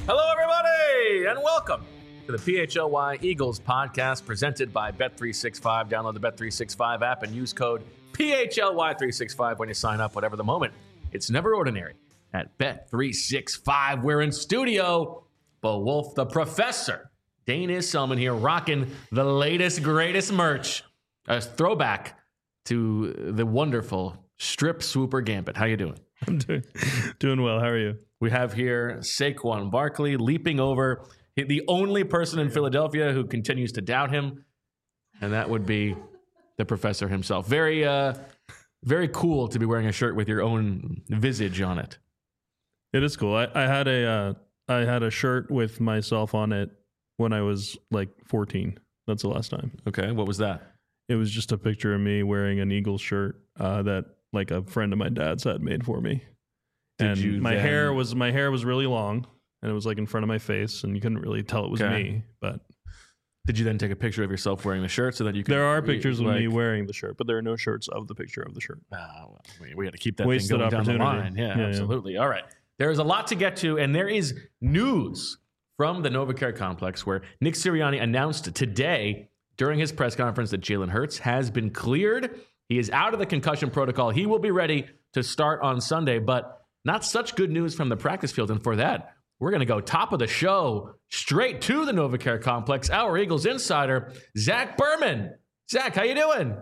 Hello, everybody, and welcome to the PHLY Eagles podcast presented by Bet365. Download the Bet365 app and use code PHLY365 when you sign up, whatever the moment. It's never ordinary at Bet365. We're in studio. Bo Wolf, the professor, Dana Selman here, rocking the latest, greatest merch. A throwback to the wonderful Strip Swooper Gambit. How you doing? I'm doing well. How are you? We have here Saquon Barkley leaping over the only person in Philadelphia who continues to doubt him, and that would be the professor himself. Very, very cool to be wearing a shirt with your own visage on it. It is cool. I had a shirt with myself on it when I was like 14. That's the last time. Okay, what was that? It was just a picture of me wearing an Eagles shirt that like a friend of my dad's had made for me. My hair was really long, and it was like in front of my face, and you couldn't really tell it was me. But did you then take a picture of yourself wearing the shirt so that you could? There are pictures of me wearing the shirt, but there are no shirts of the picture of the shirt. Well, we had to keep that thing going down the line. Yeah, absolutely. All right. There is a lot to get to, and there is news from the NovaCare complex where Nick Sirianni announced today during his press conference that Jalen Hurts has been cleared. He is out of the concussion protocol. He will be ready to start on Sunday, but not such good news from the practice field. And for that, we're going to go top of the show straight to the NovaCare complex. Our Eagles insider, Zach Berman. Zach, how you doing?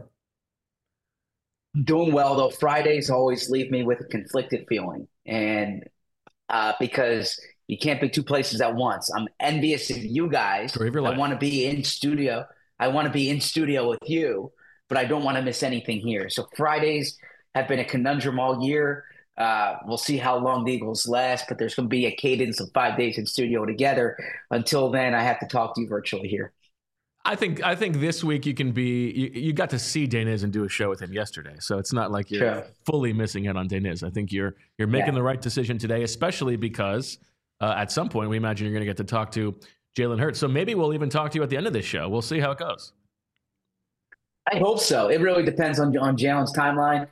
Doing well, though. Fridays always leave me with a conflicted feeling. And because you can't be two places at once. I'm envious of you guys. I want to be in studio. I want to be in studio with you, but I don't want to miss anything here. So Fridays have been a conundrum all year. We'll see how long the Eagles last, but there's going to be a cadence of 5 days in studio together. Until then, I have to talk to you virtually here. I think this week you can be. You got to see Daniz and do a show with him yesterday, so it's not like you're fully missing out on Daniz. I think you're making the right decision today, especially because at some point we imagine you're going to get to talk to Jalen Hurts. So maybe we'll even talk to you at the end of this show. We'll see how it goes. I hope so. It really depends on Jalen's timeline.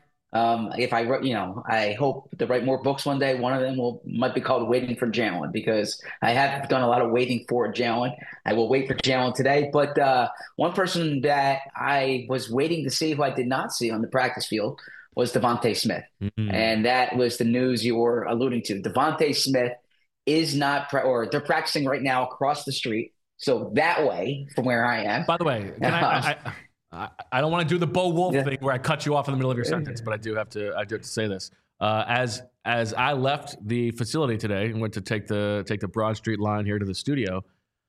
I hope to write more books one day. One of them might be called Waiting for Jalen, because I have done a lot of waiting for Jalen. I will wait for Jalen today. But one person that I was waiting to see who I did not see on the practice field was DeVonta Smith. Mm-hmm. And that was the news you were alluding to. DeVonta Smith is not they're practicing right now across the street. So that way from where I am. By the way, I don't want to do the Bo Wolf thing where I cut you off in the middle of your sentence, but I do have to say this. As I left the facility today and went to take the Broad Street line here to the studio,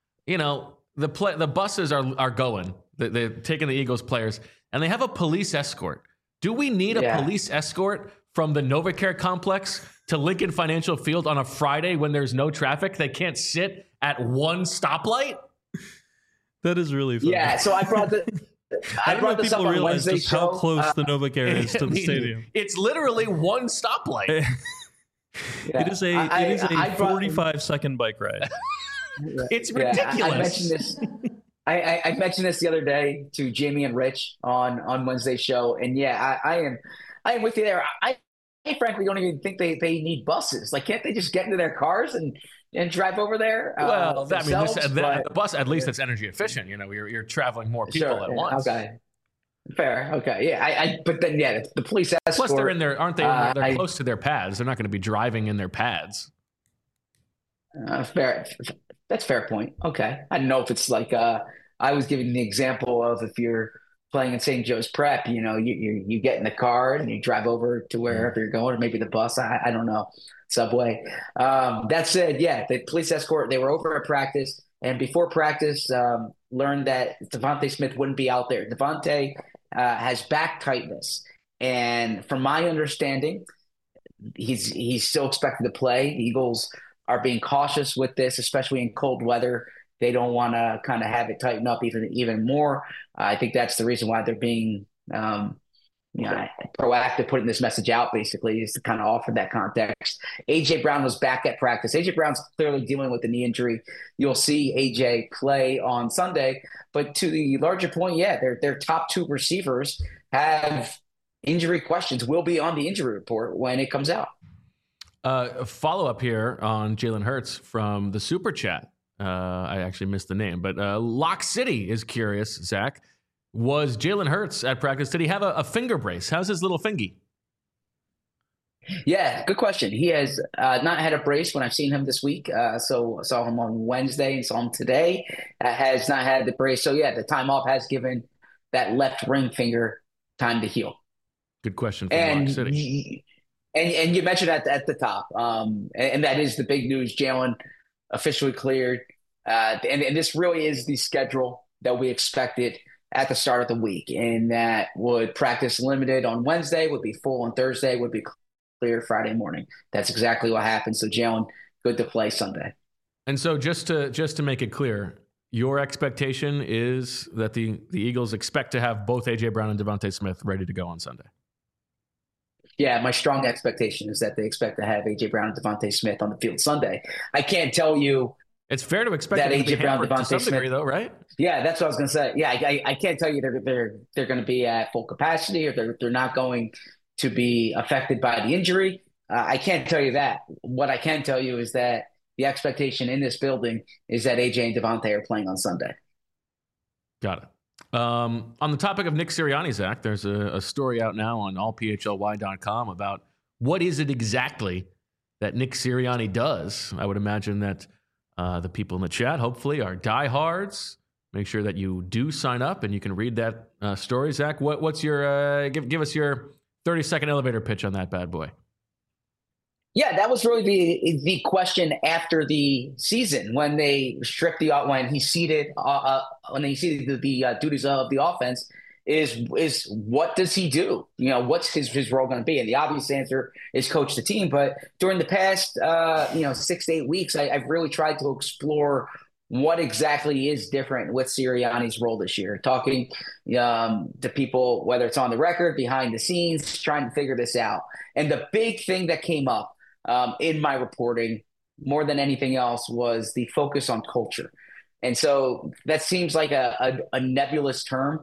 the buses are going. They're taking the Eagles players, and they have a police escort. Do we need a police escort from the NovaCare complex to Lincoln Financial Field on a Friday when there's no traffic? They can't sit at one stoplight? That is really funny. Yeah, so I brought this up on Wednesday's show. How close the Novacare is to the stadium. It's literally one stoplight. It is a 45-second bike ride. It's ridiculous. I mentioned this the other day to Jamie and Rich on Wednesday's show, and I am with you there. I frankly don't even think they need buses. Like, can't they just get into their cars and drive over there? Well, the bus, at least it's energy efficient. You're traveling more people at once. Okay. Fair. Okay. Yeah. But then, the police escort. Plus, they're in there, aren't they? They're close to their pads. They're not going to be driving in their pads. Fair. That's a fair point. Okay. I don't know if it's like I was giving the example of if you're playing in St. Joe's Prep, you get in the car and you drive over to wherever you're going, or maybe the bus. I don't know. Subway. That said, the police escort, they were over at practice, and before practice, learned that DeVonta Smith wouldn't be out there. DeVonta has back tightness, and from my understanding, he's still expected to play. The Eagles are being cautious with this, especially in cold weather. They don't want to kind of have it tighten up even more. I think that's the reason why they're being proactive, putting this message out, basically, is to kind of offer that context. A.J. Brown was back at practice. A.J. Brown's clearly dealing with a knee injury. You'll see A.J. play on Sunday. But to the larger point, their top two receivers have injury questions, will be on the injury report when it comes out. A follow-up here on Jalen Hurts from the Super Chat. I actually missed the name, but Lock City is curious, Zach. Was Jalen Hurts at practice? Did he have a finger brace? How's his little fingy? Yeah, good question. He has not had a brace when I've seen him this week. So saw him on Wednesday and saw him today. Has not had the brace. So yeah, the time off has given that left ring finger time to heal. Good question from Lock City. And you mentioned at the top, and that is the big news. Jalen officially cleared, and this really is the schedule that we expected at the start of the week. And that would practice limited on Wednesday, would be full on Thursday, would be clear Friday morning. That's exactly what happened. So Jalen, good to play Sunday. And so just to make it clear, your expectation is that the Eagles expect to have both A.J. Brown and Devontae Smith ready to go on Sunday. Yeah, my strong expectation is that they expect to have A.J. Brown and Devontae Smith on the field Sunday. I can't tell you. It's fair to expect that A.J. Brown, Devontae Smith, degree, though, right? Yeah, that's what I was going to say. Yeah, I can't tell you they're going to be at full capacity or they're not going to be affected by the injury. I can't tell you that. What I can tell you is that the expectation in this building is that A.J. and Devontae are playing on Sunday. Got it. On the topic of Nick Sirianni, Zach, there's a story out now on allphly.com about what is it exactly that Nick Sirianni does. I would imagine that the people in the chat hopefully are diehards. Make sure that you do sign up and you can read that story. Zach, what's your give us your 30-second elevator pitch on that bad boy. Yeah, that was really the question after the season when they stripped when he ceded the duties of the offense is what does he do? What's his role going to be? And the obvious answer is coach the team. But during the past 6 to 8 weeks, I've really tried to explore what exactly is different with Sirianni's role this year. Talking to people, whether it's on the record, behind the scenes, trying to figure this out. And the big thing that came up in my reporting more than anything else was the focus on culture. And so that seems like a nebulous term,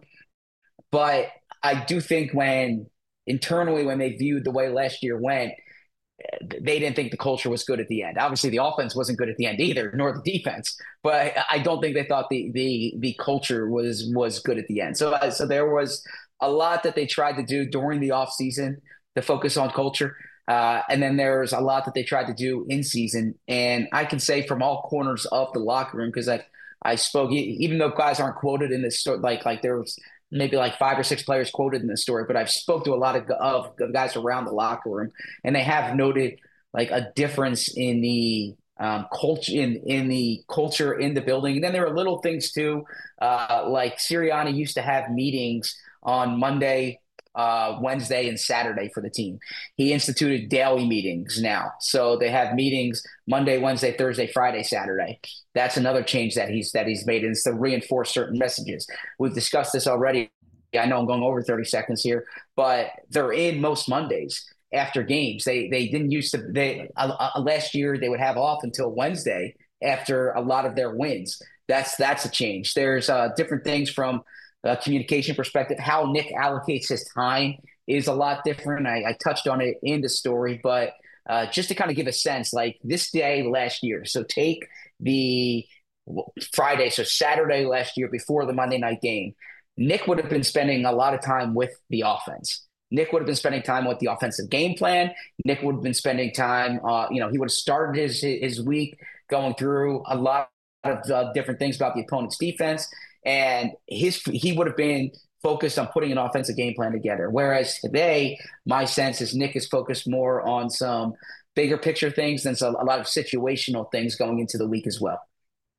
but I do think when they viewed the way last year went, they didn't think the culture was good at the end. Obviously the offense wasn't good at the end either, nor the defense, but I don't think they thought the culture was good at the end. So there was a lot that they tried to do during the off season to focus on culture. And then there's a lot that they tried to do in season. And I can say from all corners of the locker room, because I spoke, even though guys aren't quoted in this story, like there was maybe like 5 or 6 players quoted in this story, but I've spoke to a lot of guys around the locker room, and they have noted like a difference in the culture in the culture in the building. And then there are little things too, like Sirianni used to have meetings on Monday, Wednesday and Saturday for the team. He instituted daily meetings now. So they have meetings Monday, Wednesday, Thursday, Friday, Saturday. That's another change that he's made, and it's to reinforce certain messages. We've discussed this already. I know I'm going over 30 seconds here, but they're in most Mondays after games. They didn't used to, last year they would have off until Wednesday after a lot of their wins. That's a change. There's different things from communication perspective. How Nick allocates his time is a lot different. I touched on it in the story, but just to kind of give a sense, like this day last year. So take the Friday, so Saturday last year before the Monday night game, Nick would have been spending a lot of time with the offense. Nick would have been spending time with the offensive game plan. Nick would have been spending time, he would have started his week going through a lot of different things about the opponent's defense. And he would have been focused on putting an offensive game plan together. Whereas today, my sense is Nick is focused more on some bigger picture things than a lot of situational things going into the week as well.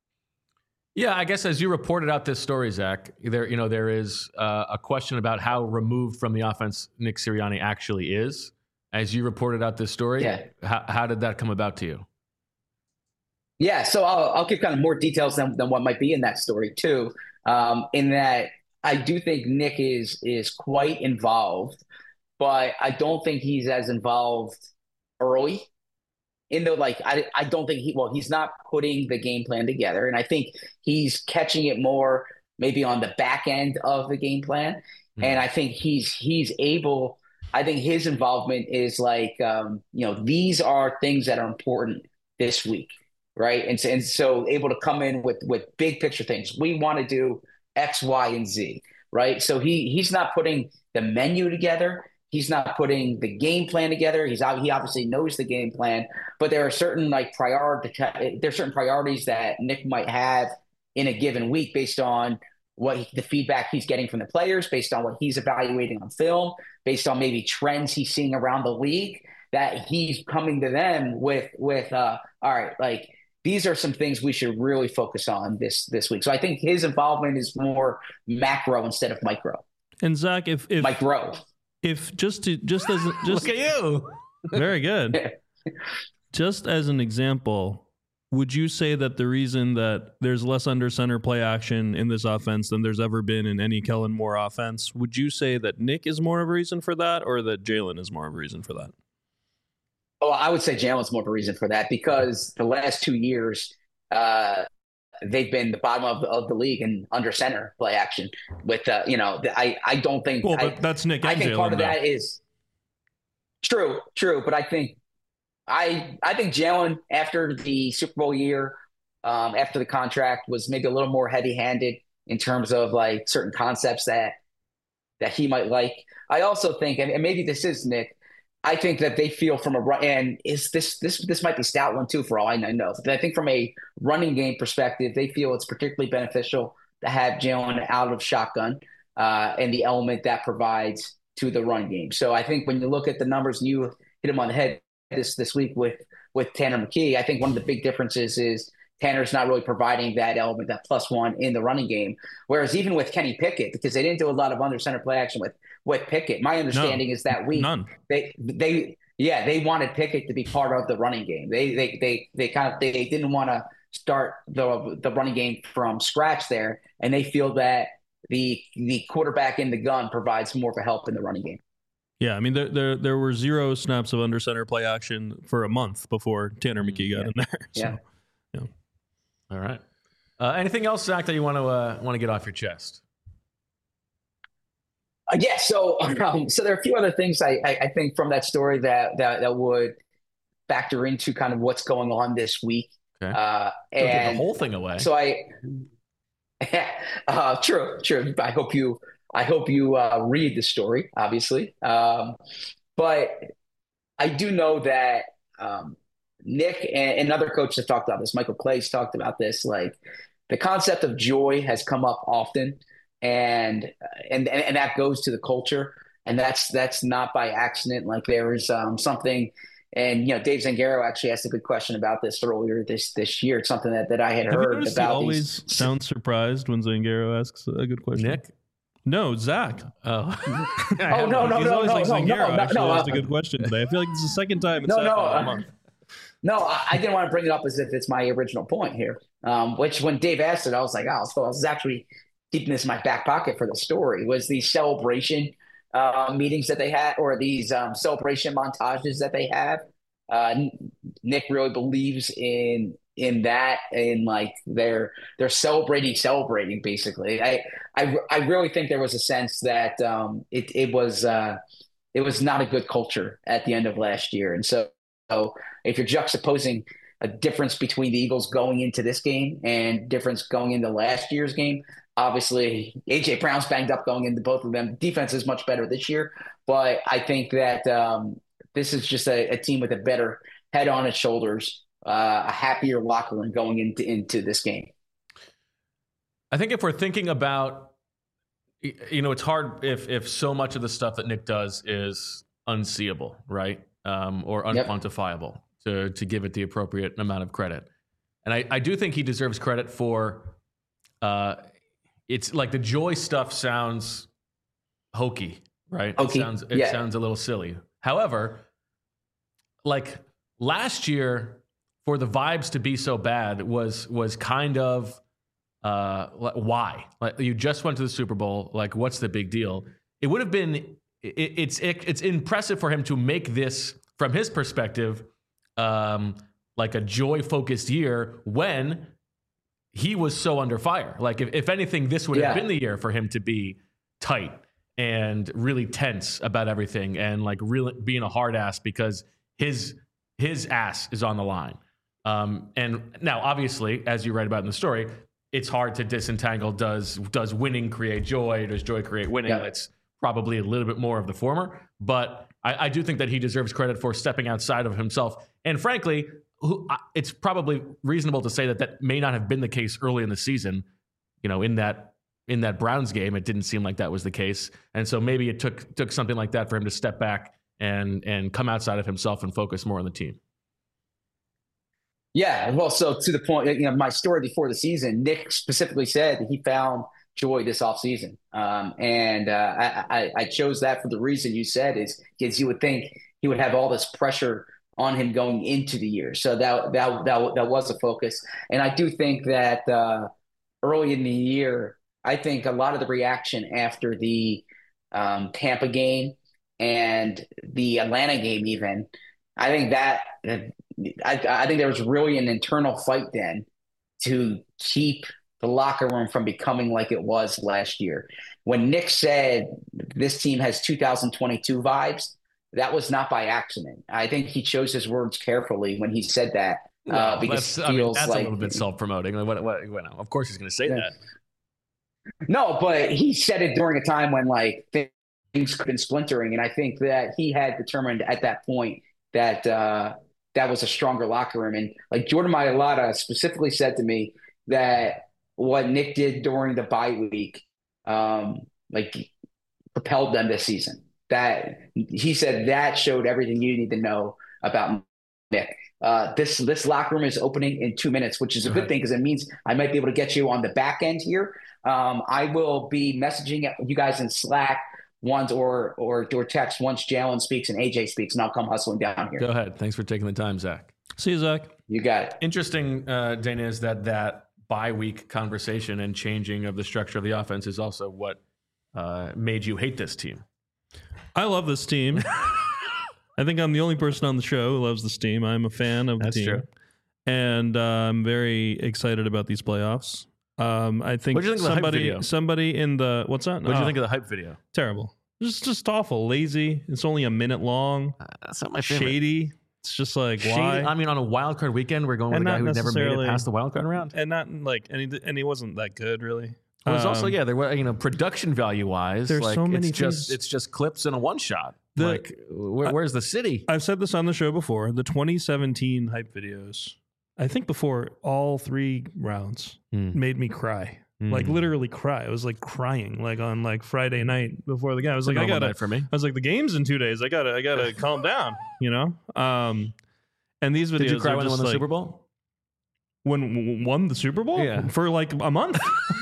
Yeah, I guess as you reported out this story, Zach, there is a question about how removed from the offense Nick Sirianni actually is. As you reported out this story, how did that come about to you? Yeah, so I'll give kind of more details than what might be in that story too. In that I do think Nick is quite involved, but I don't think he's as involved early. I don't think he's not putting the game plan together, and I think he's catching it more maybe on the back end of the game plan. And I think he's able I think his involvement is like, these are things that are important this week, right? And so able to come in with big picture things. We want to do X, Y, and Z, right? So he's not putting the menu together. He's not putting the game plan together. He obviously knows the game plan, but there are certain there's certain priorities that Nick might have in a given week based on the feedback he's getting from the players, based on what he's evaluating on film, based on maybe trends he's seeing around the league, that he's coming to them with all right, like these are some things we should really focus on this week. So I think his involvement is more macro instead of micro. And Zach, if micro. If just as look at you, very good. Just as an example, would you say that the reason that there's less under center play action in this offense than there's ever been in any Kellen Moore offense? Would you say that Nick is more of a reason for that, or that Jalen is more of a reason for that? Oh, I would say Jalen's more of a reason for that, because the last 2 years, they've been the bottom of the league in under center play action. With I don't think. Well, but that's Nick. I think Jalen, part of that is true, but I think Jalen, after the Super Bowl year, after the contract, was maybe a little more heavy handed in terms of like certain concepts that he might like. I also think, and maybe this is Nick, I think that they feel from a run, and this might be stout one too, for all I know. But I think from a running game perspective, they feel it's particularly beneficial to have Jalen out of shotgun and the element that provides to the run game. So I think when you look at the numbers, and you hit him on the head this week with Tanner McKee, I think one of the big differences is Tanner's not really providing that element, that +1 in the running game. Whereas even with Kenny Pickett, because they didn't do a lot of under center play action with Pickett, my understanding is that week they wanted Pickett to be part of the running game. They didn't want to start the running game from scratch there, and they feel that the quarterback in the gun provides more of a help in the running game. Yeah, I mean, there were 0 snaps of under center play action for a month before Tanner McKee got in there. So. Yeah. All right. Anything else, Zach, that you want to get off your chest? So there are a few other things I think from that story that would factor into kind of what's going on this week. Okay. And give the whole thing away. So true. I hope you read the story, obviously. But I do know that Nick and other coaches have talked about this. Michael Clay's talked about this. Like, the concept of joy has come up often, and that goes to the culture, and that's not by accident. Like, there is something, and Dave Zangaro actually asked a good question about this earlier this year. It's something that I had heard about. He always sounds surprised when Zangaro asks a good question. Nick. No, Zach. No. He's always like Zangaro actually asked a good question today. I feel like it's the second time in a month. No, I didn't want to bring it up as if it's my original point here. Which, when Dave asked it, I was like, oh, so I was actually keeping this in my back pocket for the story. Was these celebration meetings that they had, or these celebration montages that they have? Nick really believes in that, in like they're celebrating basically. I really think there was a sense that it was not a good culture at the end of last year, and so if you're juxtaposing a difference between the Eagles going into this game and difference going into last year's game, obviously AJ Brown's banged up going into both of them. Defense is much better this year, but I think that this is just a team with a better head on its shoulders, a happier locker room going into this game. I think if we're thinking about, it's hard if so much of the stuff that Nick does is unseeable, right? Or unquantifiable, to give it the appropriate amount of credit. And I do think he deserves credit for, it's like the joy stuff sounds hokey, right? Hokey. It sounds a little silly. However, like last year, for the vibes to be so bad was kind of why? Like, you just went to the Super Bowl. Like, what's the big deal? It would have been. It's impressive for him to make this, from his perspective, like a joy-focused year when he was so under fire. Like, if anything, this would have been the year for him to be tight and really tense about everything and like really being a hard ass because his ass is on the line. And now, obviously, as you write about in the story, it's hard to disentangle. Does winning create joy? Does joy create winning? Yeah. It's probably a little bit more of the former. But I do think that he deserves credit for stepping outside of himself. And frankly, it's probably reasonable to say that may not have been the case early in the season. You know, in that Browns game, it didn't seem like that was the case. And so maybe it took something like that for him to step back and come outside of himself and focus more on the team. Yeah, well, so to the point, my story before the season, Nick specifically said that he found joy this offseason. And I chose that for the reason you said is because you would think he would have all this pressure on him going into the year. So that was a focus. And I do think that early in the year, I think a lot of the reaction after the Tampa game and the Atlanta game even, I think I think there was really an internal fight then to keep the locker room from becoming like it was last year. When Nick said this team has 2022 vibes, that was not by accident. I think he chose his words carefully when he said that. Because that's a little bit self-promoting. Of course he's going to say that. No, but he said it during a time when like things could have been splintering. And I think that he had determined at that point that that was a stronger locker room. And like Jordan Mailata specifically said to me that what Nick did during the bye week, like propelled them this season. That he said that showed everything you need to know about Nick. This locker room is opening in 2 minutes, which is a good thing because it means I might be able to get you on the back end here. I will be messaging you guys in Slack once or text once Jalen speaks and AJ speaks, and I'll come hustling down here. Go ahead. Thanks for taking the time, Zach. See you, Zach. You got it. Interesting, Dana, is that bye week conversation and changing of the structure of the offense is also what made you hate this team. I love this team. I think I'm the only person on the show who loves this team. I'm a fan of the team. That's true. And I'm very excited about these playoffs. I think what did you think of the hype video? Somebody in the what's that? What did you think of the hype video? Terrible. Just awful, lazy. It's only a minute long. That's not my favorite. Shady. It's just like shady, why? I mean, on a wild card weekend, we're going with a guy who never made it past the wild card round, and not like and he wasn't that good really. It was also there were production value wise. There's like, so many. It's just clips and a one shot. Where's the city? I've said this on the show before. The 2017 hype videos, I think before all 3 rounds, made me cry. Like literally cry. I was like crying like on like Friday night before the game. I was like, I was like, the game's in 2 days. I gotta calm down, And these videos. Did you cry when they won the like, Super Bowl? When won the Super Bowl? Yeah. For like a month.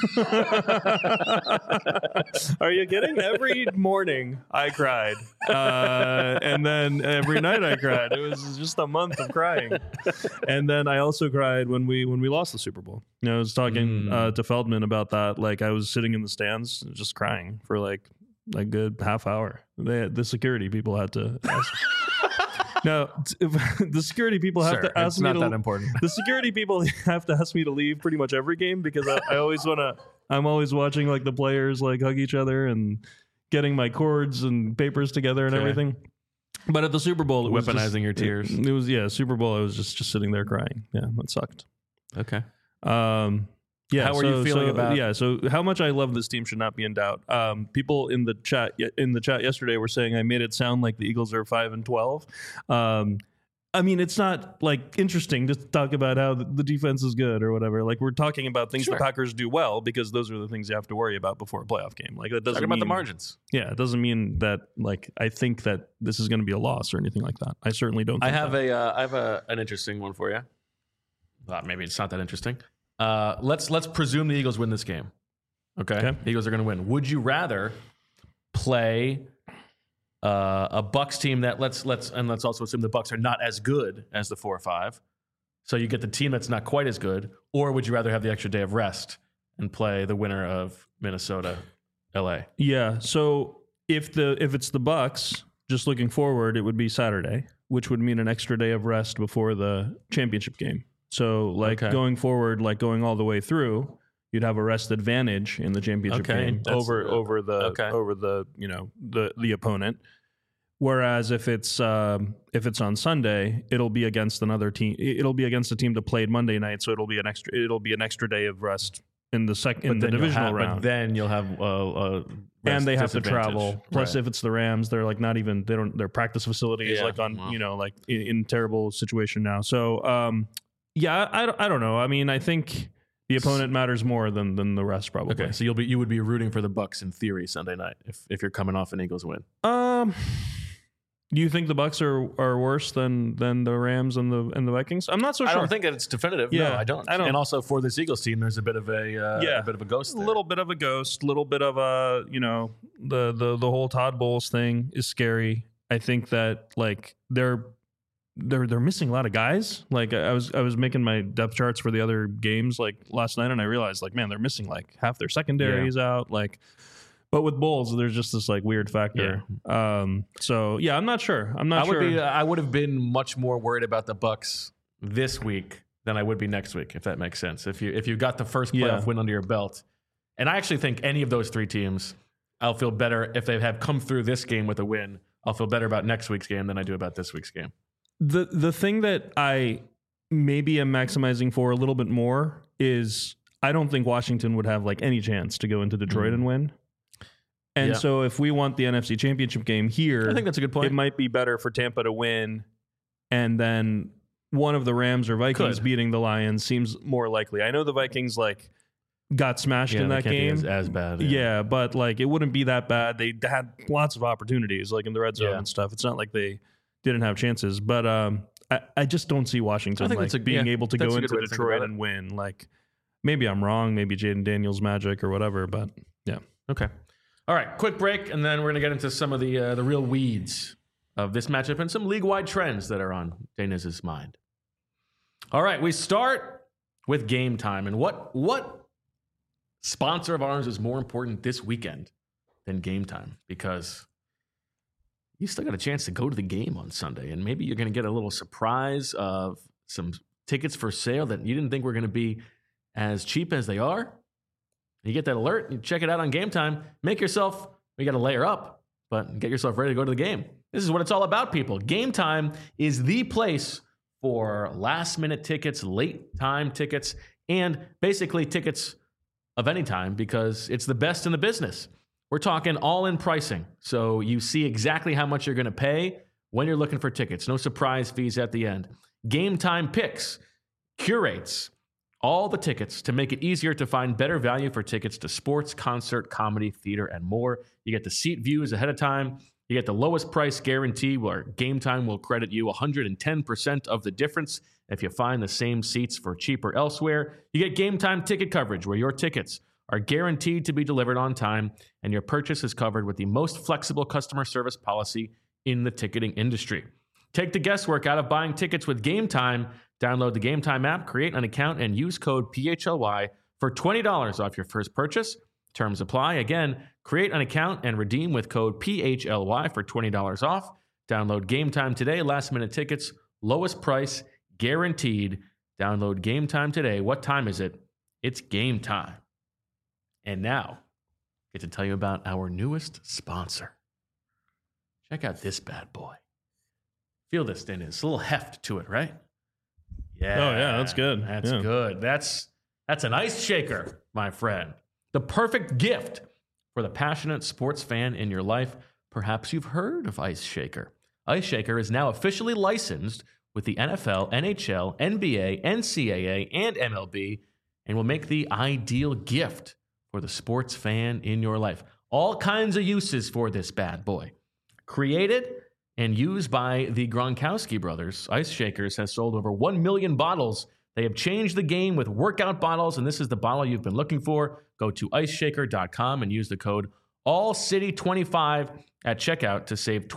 Are you kidding? Every morning I cried. And then every night I cried. It was just a month of crying. And then I also cried when we lost the Super Bowl. I was talking to Feldman about that. Like I was sitting in the stands just crying for like a good half hour. The security people had to ask. No, the security people have to ask me. It's not that important. The security people have to ask me to leave pretty much every game because I always want to. I'm always watching like the players like hug each other and getting my cords and papers together and everything. But at the Super Bowl, it was weaponizing your tears. It was Super Bowl. I was just sitting there crying. Yeah, that sucked. Okay. Yeah. How are you feeling about? Yeah. So how much I love this team should not be in doubt. People in the chat yesterday were saying I made it sound like the Eagles are 5-12. I mean, it's not like interesting to talk about how the defense is good or whatever. Like we're talking about things the Packers do well because those are the things you have to worry about before a playoff game. Like that doesn't mean about the margins. Yeah, it doesn't mean that like I think that this is going to be a loss or anything like that. I certainly don't. I have an interesting one for you. Well, maybe it's not that interesting. Let's presume the Eagles win this game. Okay. The Eagles are going to win. Would you rather play a Bucs team that let's also assume the Bucs are not as good as the 4-5, so you get the team that's not quite as good, or would you rather have the extra day of rest and play the winner of Minnesota, LA? Yeah. So if it's the Bucs, just looking forward, it would be Saturday, which would mean an extra day of rest before the championship game. So going forward, like going all the way through, you'd have a rest advantage in the championship game over the the opponent. Whereas if it's on Sunday, it'll be against another team. It'll be against a team that played Monday night, so it'll be an extra day of rest in the divisional round. But then you'll have and they have to travel. Plus, if it's the Rams, they're like not even their practice facility is like on like in terrible situation now. So I don't know. I mean, I think the opponent matters more than the rest probably. Okay, so you would be rooting for the Bucs in theory Sunday night if you're coming off an Eagles win. Do you think the Bucs are worse than the Rams and the Vikings? I'm not so sure. I don't think that it's definitive. Yeah, no, I don't. And also for this Eagles team, there's a bit of a ghost there. A little bit of a ghost, little bit of a the whole Todd Bowles thing is scary. I think that like they're missing a lot of guys. Like I was making my depth charts for the other games like last night, and I realized like, man, they're missing like half their secondaries out. Like. But with Bulls, there's just this like weird factor. Yeah. So yeah, I'm not sure. I would have been much more worried about the Bucs this week than I would be next week, if that makes sense. If you got the first playoff win under your belt, and I actually think any of those three teams, I'll feel better if they have come through this game with a win. I'll feel better about next week's game than I do about this week's game. The thing that I maybe am maximizing for a little bit more is I don't think Washington would have like any chance to go into Detroit and win. And so if we want the NFC Championship game here, I think that's a good point. It might be better for Tampa to win, and then one of the Rams or Vikings beating the Lions seems more likely. I know the Vikings like got smashed in that game. As bad. Yeah, but like it wouldn't be that bad. They had lots of opportunities like in the red zone and stuff. It's not like they didn't have chances. But I just don't see Washington being able to go into Detroit and win. Like maybe I'm wrong. Maybe Jaden Daniels magic or whatever. But yeah. Okay. All right, quick break, and then we're going to get into some of the real weeds of this matchup and some league-wide trends that are on Deniz's mind. All right, we start with Game Time. And what sponsor of ours is more important this weekend than Game Time? Because you still got a chance to go to the game on Sunday, and maybe you're going to get a little surprise of some tickets for sale that you didn't think were going to be as cheap as they are. You get that alert, you check it out on Game Time, you got to layer up, but get yourself ready to go to the game. This is what it's all about, people. Game Time is the place for last-minute tickets, late-time tickets, and basically tickets of any time because it's the best in the business. We're talking all-in pricing, so you see exactly how much you're going to pay when you're looking for tickets. No surprise fees at the end. Game Time Picks curates all the tickets to make it easier to find better value for tickets to sports, concert, comedy, theater, and more. You get the seat views ahead of time. You get the lowest price guarantee where Game Time will credit you 110% of the difference if you find the same seats for cheaper elsewhere. You get Game Time ticket coverage where your tickets are guaranteed to be delivered on time and your purchase is covered with the most flexible customer service policy in the ticketing industry. Take the guesswork out of buying tickets with Game Time. Download the Game Time app, create an account, and use code PHLY for $20 off your first purchase. Terms apply. Again, create an account and redeem with code PHLY for $20 off. Download Game Time today. Last-minute tickets, lowest price, guaranteed. Download Game Time today. What time is it? It's game time. And now, I get to tell you about our newest sponsor. Check out this bad boy. Feel this thing. It's a little heft to it, right? Yeah. Oh, yeah, that's good. That's good. That's an ice shaker, my friend. The perfect gift for the passionate sports fan in your life. Perhaps you've heard of Ice Shaker. Ice Shaker is now officially licensed with the NFL, NHL, NBA, NCAA, and MLB, and will make the ideal gift for the sports fan in your life. All kinds of uses for this bad boy. Created and used by the Gronkowski brothers, Ice Shakers has sold over 1 million bottles. They have changed the game with workout bottles, and this is the bottle you've been looking for. Go to iceshaker.com and use the code ALLCITY25 at checkout to save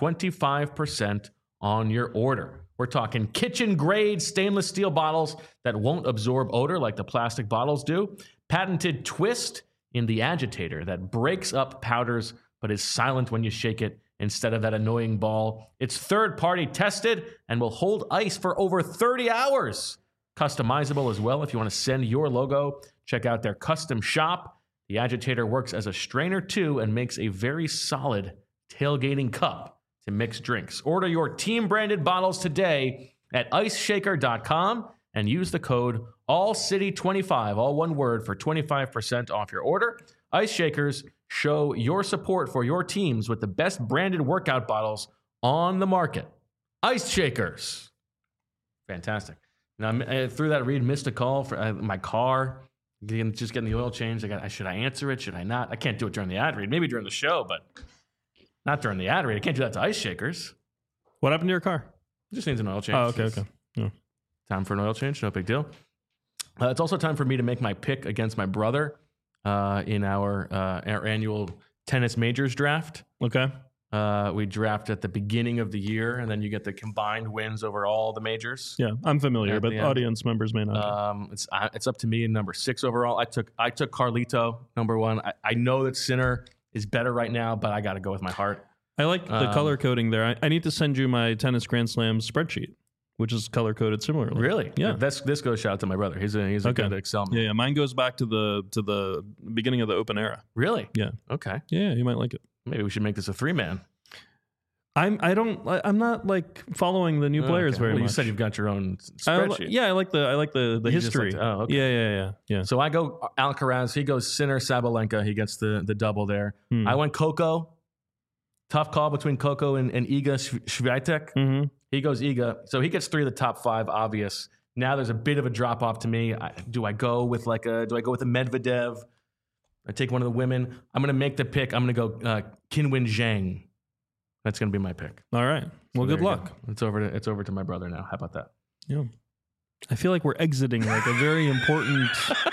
25% on your order. We're talking kitchen-grade stainless steel bottles that won't absorb odor like the plastic bottles do. Patented twist in the agitator that breaks up powders but is silent when you shake it instead of that annoying ball. It's third-party tested and will hold ice for over 30 hours. customizable as well. If you want to send your logo, check out their custom shop. The Agitator works as a strainer too and makes a very solid tailgating cup to mix drinks. Order your team-branded bottles today at iceshaker.com and use the code ALLCITY25, all one word, for 25% off your order. Ice Shakers, show your support for your teams with the best branded workout bottles on the market. Ice Shakers. Fantastic. Now, through that read, missed a call for my car. Just getting the oil changed. Should I answer it? Should I not? I can't do it during the ad read. Maybe during the show, but not during the ad read. I can't do that to Ice Shakers. What happened to your car? It just needs an oil change. Oh, okay. Yeah. Time for an oil change. No big deal. It's also time for me to make my pick against my brother in our annual tennis majors draft. Okay. We draft at the beginning of the year, and then you get the combined wins over all the majors. Yeah, I'm familiar, but audience members may not. It's up to me in number 6 overall. I took Carlito, number 1. I know that Sinner is better right now, but I got to go with my heart. I like the color coding there. I need to send you my tennis Grand Slam spreadsheet, which is color coded similarly. Really? Yeah. This goes shout out to my brother. He's a good Excel man. Yeah. Mine goes back to the beginning of the Open era. Really? Yeah. Okay. Yeah, you might like it. Maybe we should make this a 3-man. I'm not like following the new players very much. You said you've got your own spreadsheet. I like the history. Okay. Yeah. So I go Alcaraz. He goes Sinner, Sabalenka. He gets the double there. I went Coco. Tough call between Coco and Iga Swiatek. Mm-hmm. He goes Iga. So he gets 3 of the top 5, obvious. Now there's a bit of a drop off to me. Do I go with a Medvedev? I take one of the women. I'm going to make the pick. I'm going to go Qinwen Zhang. That's going to be my pick. All right. Well, good luck. It's over to my brother now. How about that? Yeah. I feel like we're exiting like a very important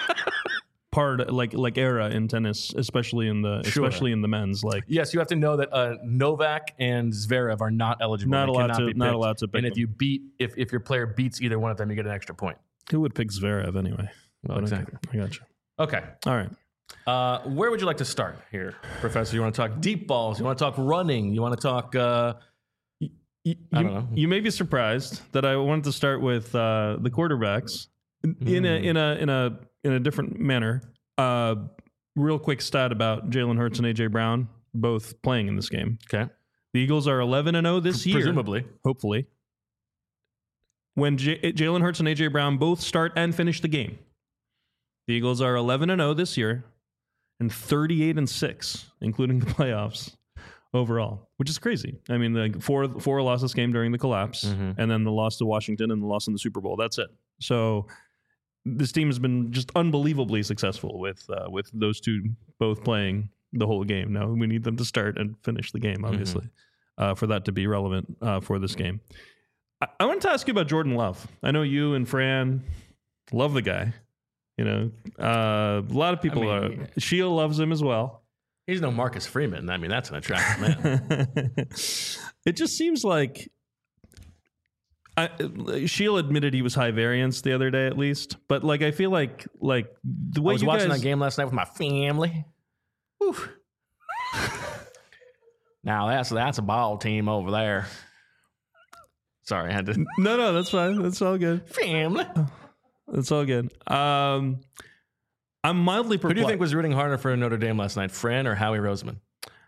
part, like era in tennis, especially in the men's. Like, yes, you have to know that Novak and Zverev are not eligible. Not allowed to pick. And if your player beats either one of them, you get an extra point. Who would pick Zverev anyway? Well, exactly. I got you. Okay. All right. Where would you like to start here, Professor? You want to talk deep balls? You want to talk running? You want to talk? I don't know. You may be surprised that I wanted to start with the quarterbacks in a different manner. Real quick stat about Jalen Hurts and AJ Brown, both playing in this game. Okay. The Eagles are 11-0 this year, presumably, hopefully. When Jalen Hurts and AJ Brown both start and finish the game, the Eagles are 11-0 this year and 38-6, including the playoffs overall, which is crazy. I mean, the four lost this game during the collapse, and then the loss to Washington and the loss in the Super Bowl. That's it. So this team has been just unbelievably successful with those two both playing the whole game. Now we need them to start and finish the game, obviously, for that to be relevant for this game. I wanted to ask you about Jordan Love. I know you and Fran love the guy. You know, a lot of people Sheila loves him as well. He's no Marcus Freeman. I mean, that's an attractive man. It just seems like Sheila admitted he was high variance the other day, at least. But like, I feel like the way I was watching that game last night with my family. Whew. Now that's a ball team over there. Sorry, I had to. No, that's fine. That's all good. Family. It's all good. I'm mildly perplexed. Who do you think was rooting harder for Notre Dame last night, Fran or Howie Roseman?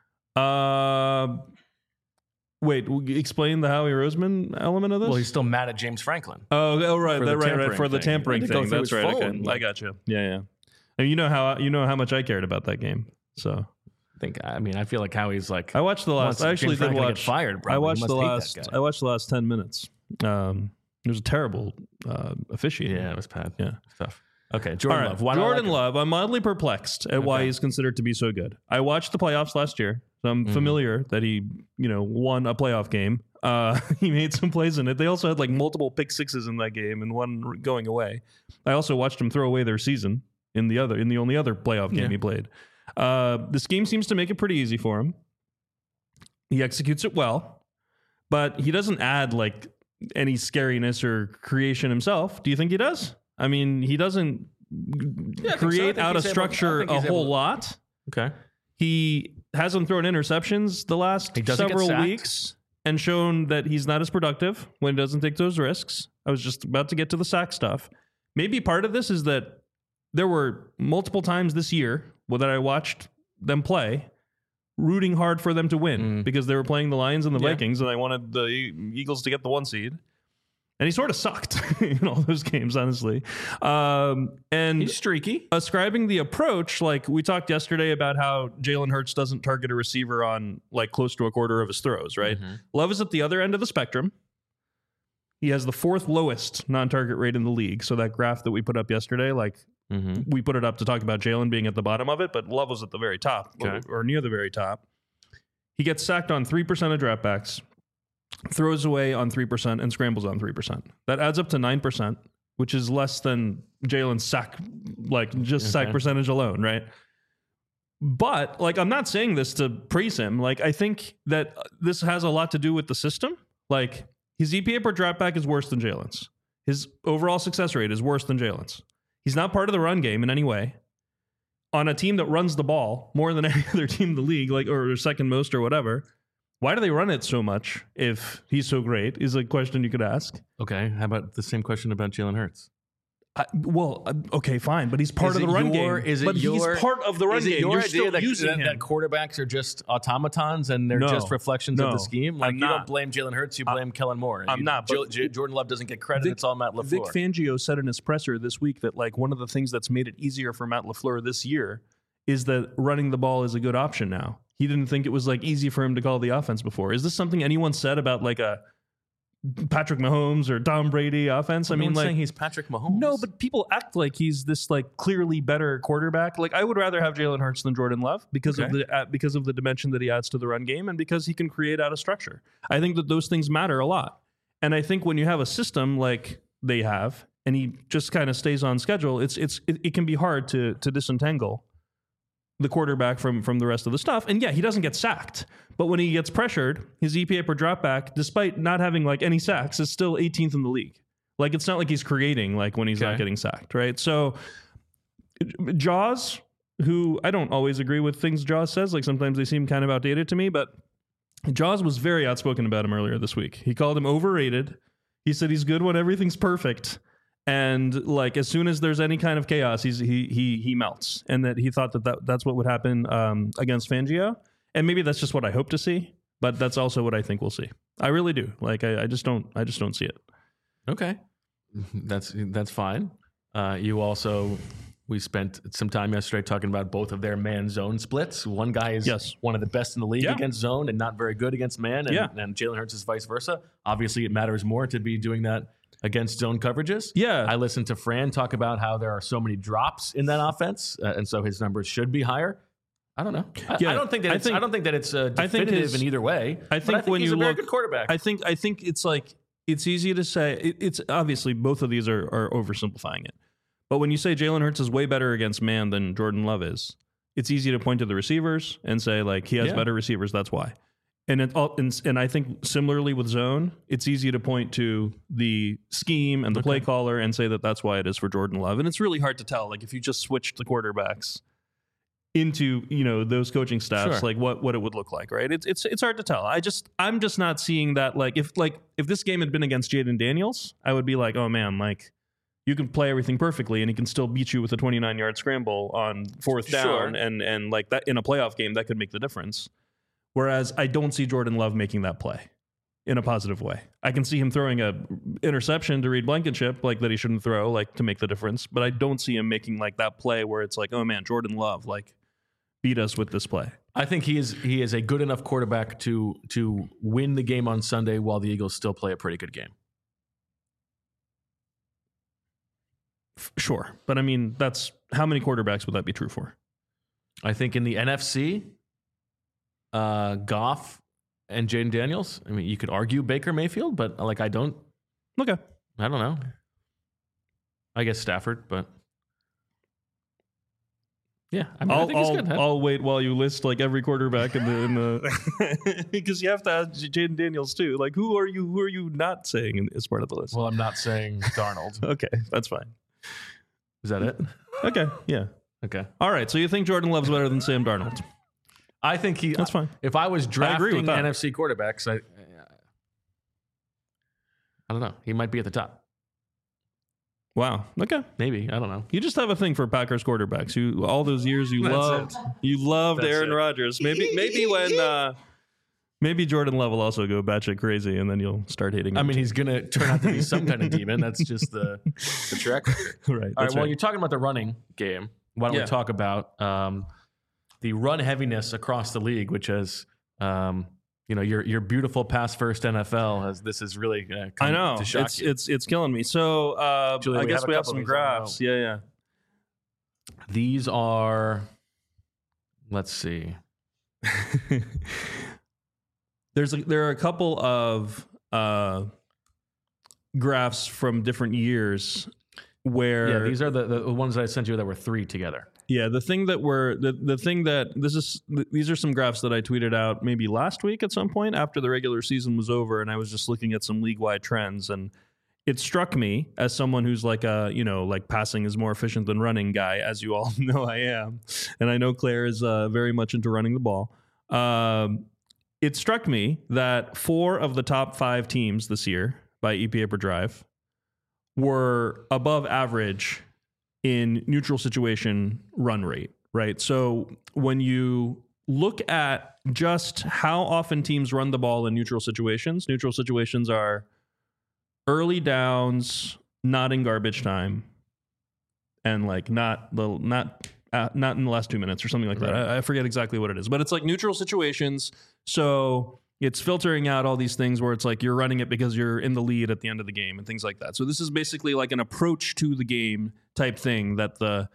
Wait, explain the Howie Roseman element of this? Well, he's still mad at James Franklin. Oh, right, right. For the tampering thing. That's right. Okay. I got you. Yeah. And you know how much I cared about that game. So I feel like Howie's like. I watched the last. I actually did watch. Get fired. Probably. I watched the last. I watched the last 10 minutes. It was a terrible officiating. Yeah, it was bad. Yeah, it's tough. Okay, Jordan Love. Jordan Love. I'm mildly perplexed at why he's considered to be so good. I watched the playoffs last year, so I'm familiar that he, won a playoff game. He made some plays in it. They also had like multiple pick sixes in that game and one going away. I also watched him throw away their season in the only other playoff game he played. This game seems to make it pretty easy for him. He executes it well, but he doesn't add like any scariness or creation himself. Do you think he does? I mean, he doesn't create out of structure a whole lot. Okay. He hasn't thrown interceptions the last several weeks. and shown that he's not as productive when he doesn't take those risks. I was just about to get to the sack stuff. Maybe part of this is that there were multiple times this year that I watched them play, rooting hard for them to win because they were playing the Lions and the Vikings, and I wanted the Eagles to get the 1 seed. And he sort of sucked in all those games, honestly. And he's streaky. Ascribing the approach, like we talked yesterday about how Jalen Hurts doesn't target a receiver on like close to a quarter of his throws, right? Love is at the other end of the spectrum. He has the 4th lowest non-target rate in the league. So that graph that we put up yesterday, like we put it up to talk about Jalen being at the bottom of it, but Love was at the very top or near the very top. He gets sacked on 3% of dropbacks, throws away on 3%, and scrambles on 3%. That adds up to 9%, which is less than Jalen's sack, like just sack percentage alone, right? But like, I'm not saying this to praise him. Like, I think that this has a lot to do with the system. Like, his EPA per dropback is worse than Jalen's. His overall success rate is worse than Jalen's. He's not part of the run game in any way. On a team that runs the ball more than any other team in the league, like, or second most or whatever, why do they run it so much if he's so great is a question you could ask. Okay, how about the same question about Jalen Hurts? Okay, fine, but he's part of the run game. He's part of the run game. Your You're idea still that, using him. that quarterbacks are just automatons and they're just reflections of the scheme? Like, you don't blame Jalen Hurts, you blame Kellen Moore. I'm not. Jordan Love doesn't get credit. It's all Matt LaFleur. Vic Fangio said in his presser this week that like one of the things that's made it easier for Matt LaFleur this year is that running the ball is a good option now. He didn't think it was like easy for him to call the offense before. Is this something anyone said about like a Patrick Mahomes or Tom Brady offense? Well, I mean, like, saying he's Patrick Mahomes. No, but people act like he's this like clearly better quarterback. Like, I would rather have Jalen Hurts than Jordan Love because of the dimension that he adds to the run game and because he can create out of structure. I think that those things matter a lot. And I think when you have a system like they have, and he just kind of stays on schedule, it can be hard to disentangle the quarterback from the rest of the stuff. And yeah, he doesn't get sacked, but when he gets pressured, his EPA per dropback, despite not having like any sacks, is still 18th in the league. Like, it's not like he's creating like when he's not getting sacked, right? So Jaws, who I don't always agree with things Jaws says, like sometimes they seem kind of outdated to me, but Jaws was very outspoken about him earlier this week. He called him overrated. He said he's good when everything's perfect. And like, as soon as there's any kind of chaos, he melts, and that he thought that's what would happen against Fangio. And maybe that's just what I hope to see, but that's also what I think we'll see. I really do. Like, I just don't see it. Okay, that's fine. We spent some time yesterday talking about both of their man zone splits. One guy is one of the best in the league against zone and not very good against man, and Jalen Hurts is vice versa. Obviously, it matters more to be doing that against zone coverages. Yeah. I listened to Fran talk about how there are so many drops in that offense, and so his numbers should be higher. I don't know. I don't think that it's definitive in either way. I think when he's you a very good quarterback. I think it's like, it's easy to say. It's obviously both of these are oversimplifying it. But when you say Jalen Hurts is way better against man than Jordan Love is, it's easy to point to the receivers and say like he has better receivers. That's why. And I think similarly with zone, it's easy to point to the scheme and the play caller and say that that's why it is for Jordan Love. And it's really hard to tell, like, if you just switched the quarterbacks into, those coaching staffs, like what it would look like, right? It's hard to tell. I'm just not seeing that. If this game had been against Jaden Daniels, I would be like, oh man, like, you can play everything perfectly and he can still beat you with a 29-yard scramble on 4th down, and like that in a playoff game, that could make the difference. Whereas I don't see Jordan Love making that play in a positive way. I can see him throwing a interception to Reed Blankenship, like, that he shouldn't throw, like, to make the difference. But I don't see him making like that play where it's like, oh man, Jordan Love, like, beat us with this play. I think he is a good enough quarterback to win the game on Sunday while the Eagles still play a pretty good game. Sure. But I mean, that's how many quarterbacks would that be true for? I think in the NFC, Goff and Jaden Daniels. I mean, you could argue Baker Mayfield, but like, I don't know. I guess Stafford, but yeah, I think he's good. I'll wait while you list like every quarterback in the because you have to add Jaden Daniels too. Like, who are you not saying as part of the list? Well, I'm not saying Darnold. Okay, that's fine. Is that it? Okay, yeah. Okay. All right. So you think Jordan Love's better than Sam Darnold? I think that's fine. If I was drafting NFC quarterbacks, I don't know. He might be at the top. Wow. Okay. Maybe. I don't know. You just have a thing for Packers quarterbacks. You all those years you loved Aaron Rodgers. Maybe when maybe Jordan Love will also go batshit crazy, and then you'll start hating him. I mean, he's gonna turn out to be some kind of demon. That's just the track record. Right. All right. Well, you're talking about the running game. Why don't we talk about the run heaviness across the league, which has your beautiful pass first NFL this is really I know to shock it's killing me. So Julia, I guess we have some graphs. Yeah. These are, let's see. There are a couple of graphs from different years where these are the ones that I sent you that were 3 together. Yeah, these are some graphs that I tweeted out maybe last week at some point after the regular season was over, and I was just looking at some league-wide trends, and it struck me as someone who's like passing is more efficient than running guy, as you all know I am, and I know Claire is very much into running the ball. It struck me that 4 of the top 5 teams this year by EPA per drive were above average in neutral situation run rate, right? So when you look at just how often teams run the ball in neutral situations are early downs, not in garbage time, and like not in the last 2 minutes or something like that. I forget exactly what it is, but it's like neutral situations. So it's filtering out all these things where it's like you're running it because you're in the lead at the end of the game and things like that. So this is basically like an approach to the game type thing so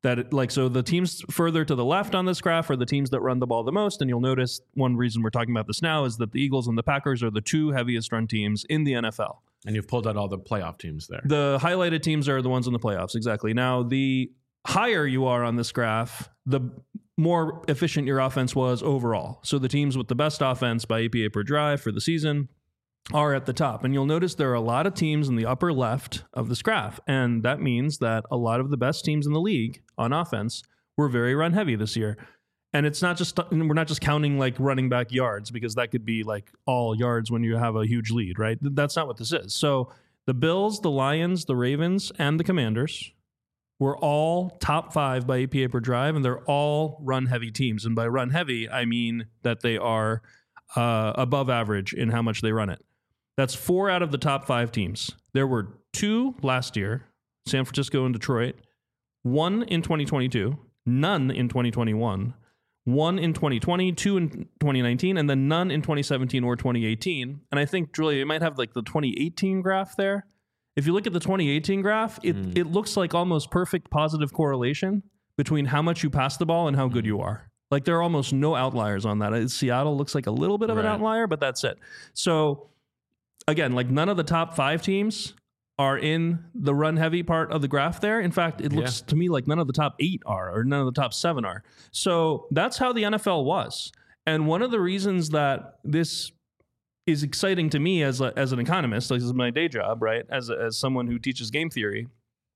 the teams further to the left on this graph are the teams that run the ball the most. And you'll notice one reason we're talking about this now is that the Eagles and the Packers are the 2 heaviest run teams in the NFL. And you've pulled out all the playoff teams there. The highlighted teams are the ones in the playoffs. Exactly. Now, the higher you are on this graph, the more efficient your offense was overall. So the teams with the best offense by EPA per drive for the season are at the top. And you'll notice there are a lot of teams in the upper left of this graph. And that means that a lot of the best teams in the league on offense were very run heavy this year. And we're not just counting like running back yards, because that could be like all yards when you have a huge lead, right? That's not what this is. So the Bills, the Lions, the Ravens, and the Commanders were all top 5 by EPA per drive, and they're all run-heavy teams. And by run-heavy, I mean that they are above average in how much they run it. That's 4 out of the top 5 teams. There were 2 last year, San Francisco and Detroit, 1 in 2022, none in 2021, 1 in 2020, 2 in 2019, and then none in 2017 or 2018. And I think, Julia, you might have like the 2018 graph there. If you look at the 2018 graph, it looks like almost perfect positive correlation between how much you pass the ball and how good you are. Like there are almost no outliers on that. Seattle looks like a little bit of an outlier, but that's it. So again, like none of the top 5 teams are in the run heavy part of the graph there. In fact, it looks to me like none of the top 8 are, or none of the top 7 are. So that's how the NFL was. And one of the reasons that this is exciting to me as an economist, like this is my day job, right? As someone who teaches game theory,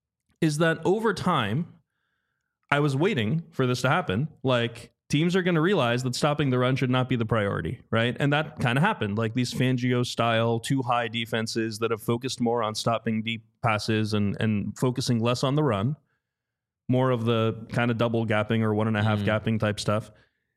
is that over time, I was waiting for this to happen. Like teams are going to realize that stopping the run should not be the priority, right? And that kind of happened. Like these Fangio style 2 high defenses that have focused more on stopping deep passes and focusing less on the run, more of the kind of double gapping or 1.5 gapping type stuff.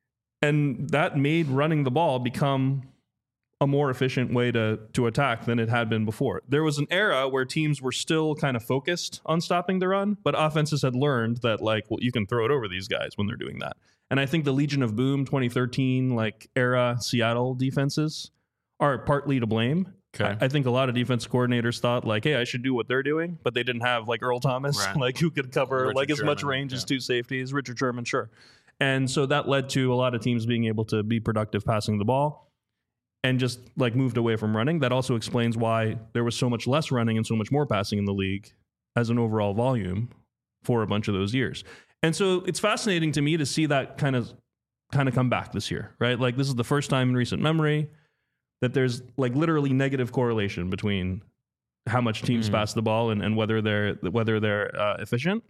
And that made running the ball become a more efficient way to attack than it had been before. There was an era where teams were still kind of focused on stopping the run, but offenses had learned that like, well, you can throw it over these guys when they're doing that. And I think the Legion of Boom 2013 like era Seattle defenses are partly to blame. Okay. I think a lot of defense coordinators thought like, hey, I should do what they're doing, but they didn't have like Earl Thomas, like who could cover Richard like as Sherman, much range as 2 safeties, Richard Sherman, sure. And so that led to a lot of teams being able to be productive passing the ball and just like moved away from running. That also explains why there was so much less running and so much more passing in the league as an overall volume for a bunch of those years. And so it's fascinating to me to see that kind of come back this year, right? Like this is the first time in recent memory that there's like literally negative correlation between how much teams pass the ball and whether they're efficient.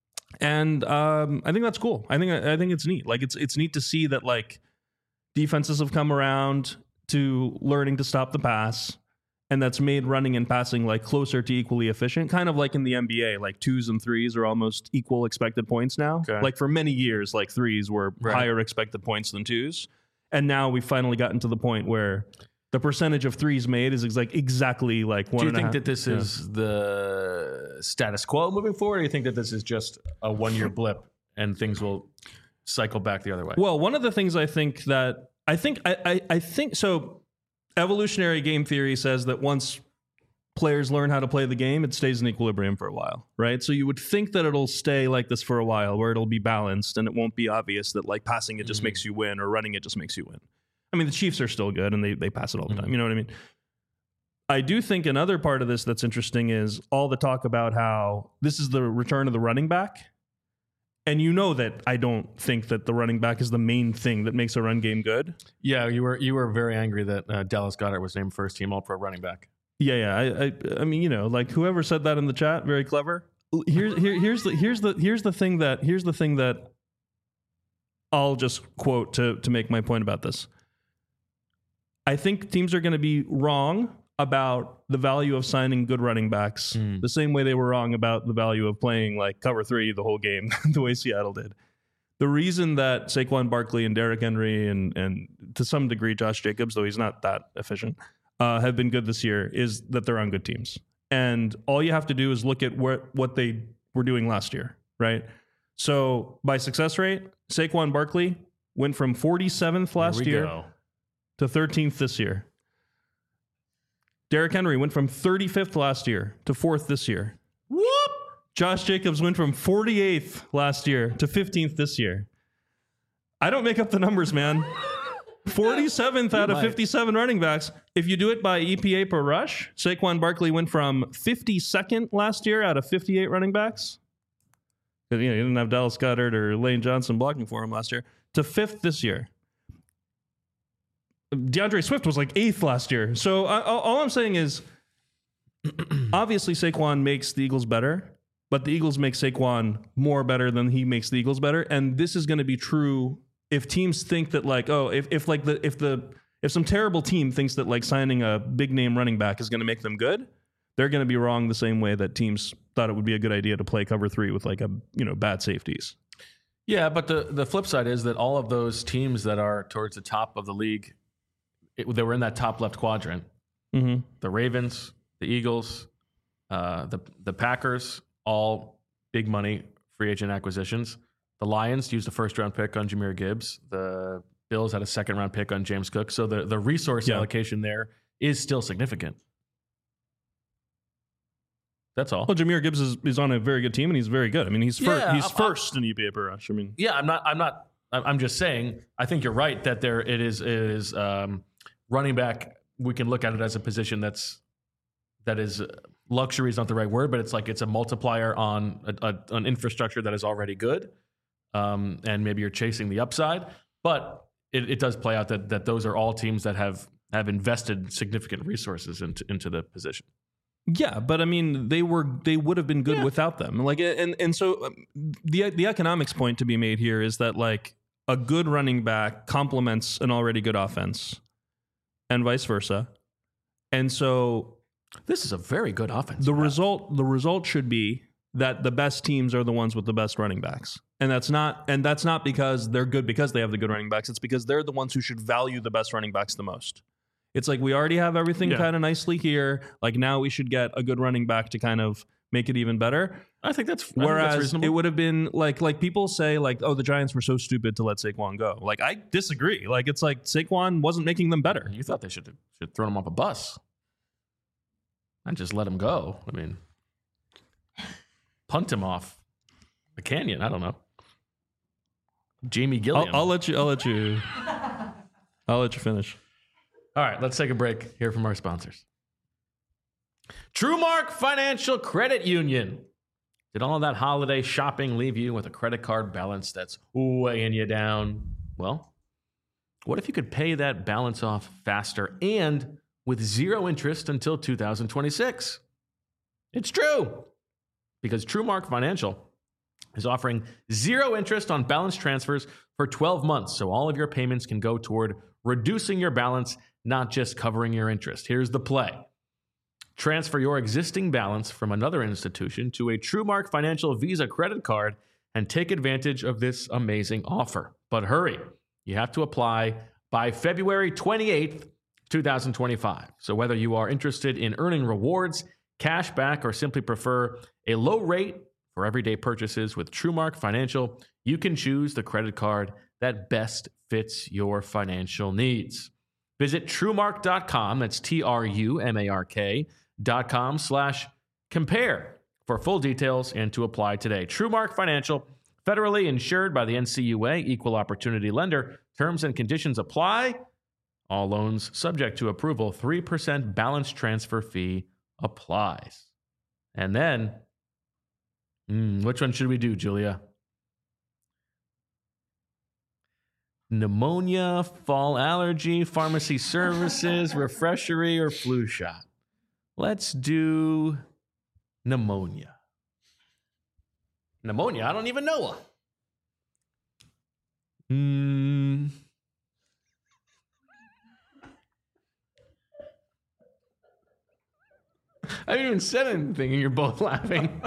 And I think that's cool. I think it's neat. Like it's neat to see that like defenses have come around to learning to stop the pass, and that's made running and passing like closer to equally efficient, kind of like in the NBA, like 2s and 3s are almost equal expected points now. Okay. Like for many years, like 3s were higher expected points than 2s. And now we've finally gotten to the point where the percentage of 3s made is exactly like 1.5. Do you think that this is the status quo moving forward, or do you think that this is just a 1-year blip and things will cycle back the other way? Well, one of the things I think so. Evolutionary game theory says that once players learn how to play the game, it stays in equilibrium for a while, right? So you would think that it'll stay like this for a while, where it'll be balanced and it won't be obvious that like passing it just makes you win or running it just makes you win. I mean, the Chiefs are still good and they pass it all the time. You know what I mean? I do think another part of this that's interesting is all the talk about how this is the return of the running back. And you know that I don't think that the running back is the main thing that makes a run game good. Yeah, you were very angry that Dallas Goedert was named first team All-Pro running back. Yeah. I mean, you know, like whoever said that in the chat, very clever. Here's the thing that I'll just quote to make my point about this. I think teams are going to be wrong about the value of signing good running backs the same way they were wrong about the value of playing like cover 3 the whole game the way Seattle did. The reason that Saquon Barkley and Derrick Henry and to some degree Josh Jacobs, though he's not that efficient, have been good this year is that they're on good teams. And all you have to do is look at what they were doing last year, right? So by success rate, Saquon Barkley went from 47th last year to 13th this year. Derrick Henry went from 35th last year to 4th this year. Whoop! Josh Jacobs went from 48th last year to 15th this year. I don't make up the numbers, man. 47th out of 57 running backs. If you do it by EPA per rush, Saquon Barkley went from 52nd last year out of 58 running backs. You know, he didn't have Dallas Goedert or Lane Johnson blocking for him last year, to 5th this year. DeAndre Swift was like 8th last year. So all I'm saying is, obviously Saquon makes the Eagles better, but the Eagles make Saquon more better than he makes the Eagles better. And this is going to be true if teams think that like, oh, if some terrible team thinks that like signing a big name running back is going to make them good, they're going to be wrong the same way that teams thought it would be a good idea to play cover 3 with like bad safeties. Yeah, but the flip side is that all of those teams that are towards the top of the league, they were in that top left quadrant. Mm-hmm. The Ravens, the Eagles, the Packers, all big money free agent acquisitions. The Lions used a first-round pick on Jahmyr Gibbs. The Bills had a second-round pick on James Cook. So the resource allocation there is still significant. That's all. Well, Jahmyr Gibbs is on a very good team, and he's very good. I mean, he's first in EPA per rush. I mean, I'm just saying. I think you're right that it is running back. We can look at it as a position that is luxury is not the right word, but it's a multiplier on an infrastructure that is already good, and maybe you're chasing the upside. But it does play out that those are all teams that have invested significant resources into the position. Yeah, but I mean, they would have been good without them. Like, and so the economics point to be made here is that like a good running back complements an already good offense, and vice versa. And so this is a very good offense. The result should be that the best teams are the ones with the best running backs, and that's not because they're good because they have the good running backs. It's because they're the ones who should value the best running backs the most. It's like we already have everything kind of nicely here. Like now we should get a good running back to kind of make it even better. I think that's reasonable. It would have been like people say like, oh, the Giants were so stupid to let Saquon go. Like I disagree. Like it's like Saquon wasn't making them better. You thought they should throw him off a bus and just let him go. I mean, punt him off a canyon. I don't know. Jamie Gilliam. I'll let you finish. All right, let's take a break. Hear from our sponsors. TrueMark Financial Credit Union. Did all of that holiday shopping leave you with a credit card balance that's weighing you down? Well, what if you could pay that balance off faster and with zero interest until 2026? It's true, because TrueMark Financial is offering zero interest on balance transfers for 12 months, so all of your payments can go toward reducing your balance, not just covering your interest. Here's the play. Transfer your existing balance from another institution to a TrueMark Financial Visa credit card and take advantage of this amazing offer. But hurry, you have to apply by February 28th, 2025. So whether you are interested in earning rewards, cash back, or simply prefer a low rate for everyday purchases with TrueMark Financial, you can choose the credit card that best fits your financial needs. Visit TrueMark.com, that's TRUMARK.com/compare for full details and to apply today. TrueMark Financial, federally insured by the NCUA, equal opportunity lender. Terms and conditions apply. All loans subject to approval. 3% balance transfer fee applies. And then, which one should we do, Julia? Pneumonia, fall allergy, pharmacy services, refreshery, or flu shot? Let's do pneumonia. Pneumonia? I don't even know her. I haven't even said anything and you're both laughing.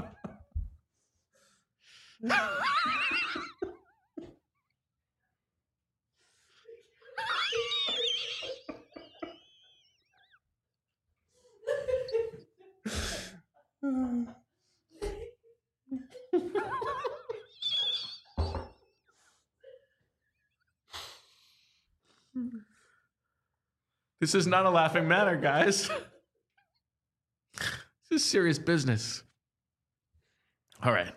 This is not a laughing matter, guys. This is serious business. All right.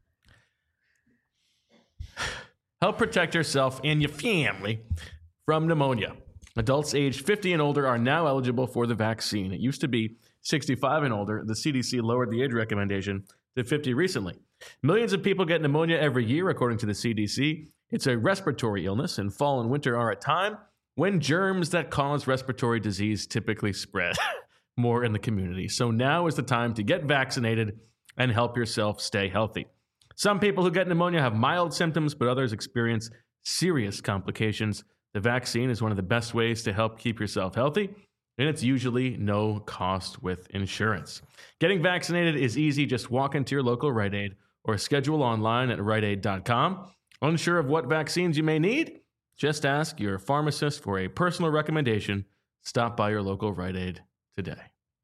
Help protect yourself and your family from pneumonia. Adults aged 50 and older are now eligible for the vaccine. It used to be 65 and older. The CDC lowered the age recommendation to 50 recently. Millions of people get pneumonia every year, according to the CDC. It's a respiratory illness, and fall and winter are a time when germs that cause respiratory disease typically spread more in the community. So now is the time to get vaccinated and help yourself stay healthy. Some people who get pneumonia have mild symptoms, but others experience serious complications. The vaccine is one of the best ways to help keep yourself healthy, and it's usually no cost with insurance. Getting vaccinated is easy. Just walk into your local Rite Aid or schedule online at riteaid.com. Unsure of what vaccines you may need? Just ask your pharmacist for a personal recommendation. Stop by your local Rite Aid today.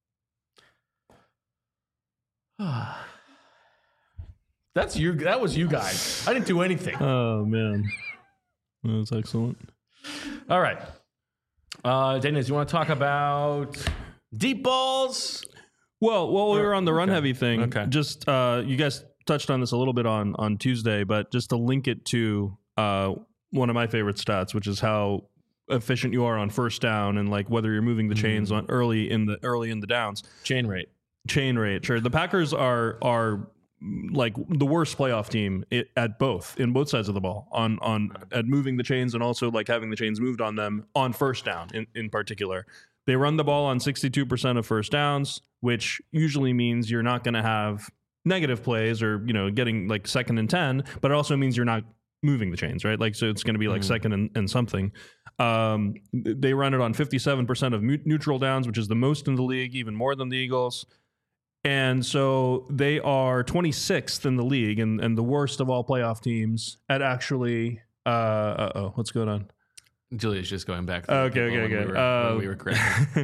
That's you. That was you guys. I didn't do anything. Oh, man. That was excellent. All right. Dennis, you want to talk about deep balls? Well, while we were on the run heavy thing, just you guys touched on this a little bit on Tuesday, but just to link it to one of my favorite stats, which is how efficient you are on first down and like whether you're moving the chains on early in the downs. Chain rate. Sure. The Packers are like the worst playoff team in both sides of the ball at moving the chains and also like having the chains moved on them on first down in particular. They run the ball on 62% of first downs, which usually means you're not going to have negative plays or, getting like 2nd and 10, but it also means you're not moving the chains, right? Like, so it's going to be like 2nd and something. They run it on 57% of neutral downs, which is the most in the league, even more than the Eagles. And so they are 26th in the league and the worst of all playoff teams at actually, what's going on? Julia's just going back. Okay. We were correct.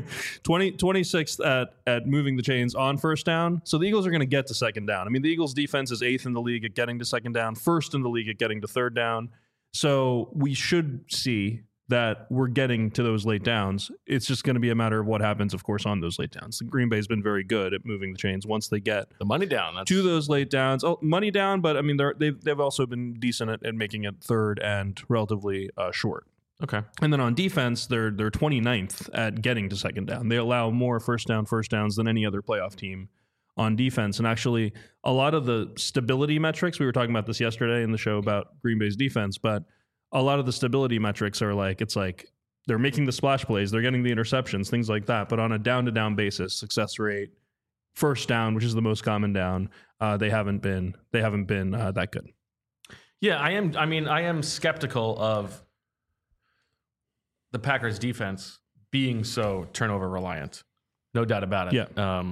26th at moving the chains on first down. So the Eagles are going to get to second down. I mean, the Eagles defense is 8th in the league at getting to second down, 1st in the league at getting to third down. So we should see that we're getting to those late downs. It's just going to be a matter of what happens, of course, on those late downs. Green Bay's been very good at moving the chains once they get the money down to those late downs. Oh, money down, but I mean, they've also been decent at making it third and relatively short. Okay. And then on defense, they're 29th at getting to second down. They allow more first downs than any other playoff team on defense. And actually, a lot of the stability metrics, we were talking about this yesterday in the show about Green Bay's defense, but a lot of the stability metrics are like, it's like they're making the splash plays, they're getting the interceptions, things like that. But on a down-to-down basis, success rate, first down, which is the most common down, they haven't been that good. Yeah, I am skeptical of the Packers defense being so turnover reliant. No doubt about it. Yeah.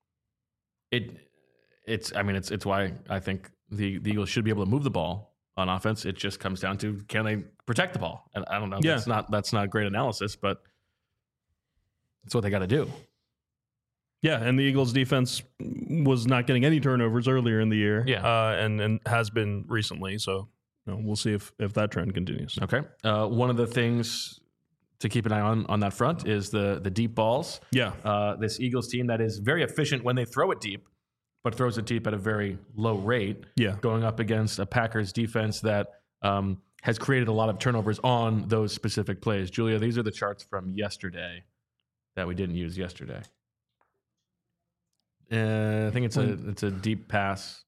It's why I think the Eagles should be able to move the ball on offense. It just comes down to, can they protect the ball? And I don't know. Yeah. That's not great analysis, but that's what they got to do. Yeah, and the Eagles defense was not getting any turnovers earlier in the year. Yeah. And has been recently. So we'll see if that trend continues. Okay. One of the things to keep an eye on that front is the deep balls. Yeah. This Eagles team that is very efficient when they throw it deep, but throws it deep at a very low rate. Yeah. Going up against a Packers defense that has created a lot of turnovers on those specific plays. Julia, these are the charts from yesterday that we didn't use yesterday. I think it's a deep pass.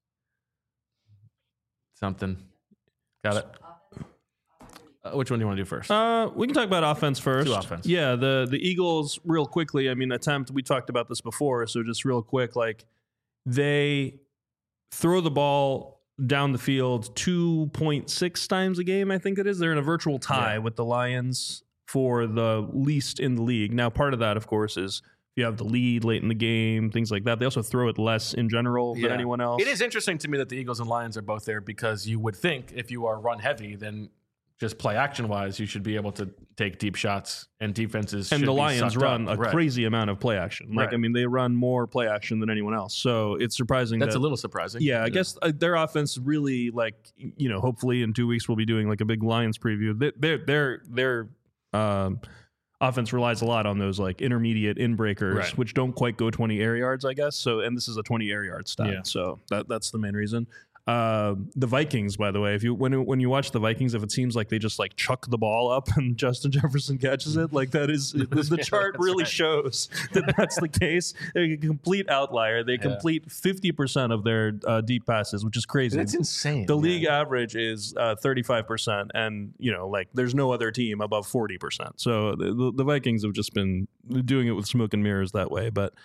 Something. Got it. Which one do you want to do first? We can talk about offense first. Do offense. Yeah, the Eagles, real quickly, we talked about this before, so just real quick, like, they throw the ball down the field 2.6 times a game, I think it is. They're in a virtual tie with the Lions for the least in the league. Now, part of that, of course, is you have the lead late in the game, things like that. They also throw it less in general than anyone else. It is interesting to me that the Eagles and Lions are both there, because you would think if you are run heavy, then just play action wise, you should be able to take deep shots, and defenses. And should the be Lions run up. a crazy amount of play action. Like, they run more play action than anyone else. So it's surprising. That's a little surprising. Yeah, I guess their offense really, like, hopefully in 2 weeks we'll be doing like a big Lions preview. Their offense relies a lot on those like intermediate in-breakers, which don't quite go 20 air yards, I guess. So, and this is a 20 air yard stat. Yeah. So that's the main reason. The Vikings, by the way, when you watch the Vikings, if it seems like they just like chuck the ball up and Justin Jefferson catches it, like that is the chart really shows that that's the case. They're a complete outlier. They complete 50% of their deep passes, which is crazy. That's insane. The league average is 35%, and like there's no other team above 40%. So the Vikings have just been doing it with smoke and mirrors that way, but.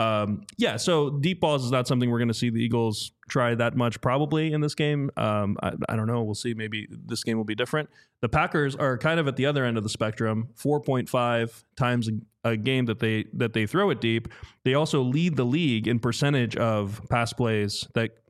So deep balls is not something we're going to see the Eagles try that much probably in this game. I don't know. We'll see. Maybe this game will be different. The Packers are kind of at the other end of the spectrum, 4.5 times a game that they throw it deep. They also lead the league in percentage of pass plays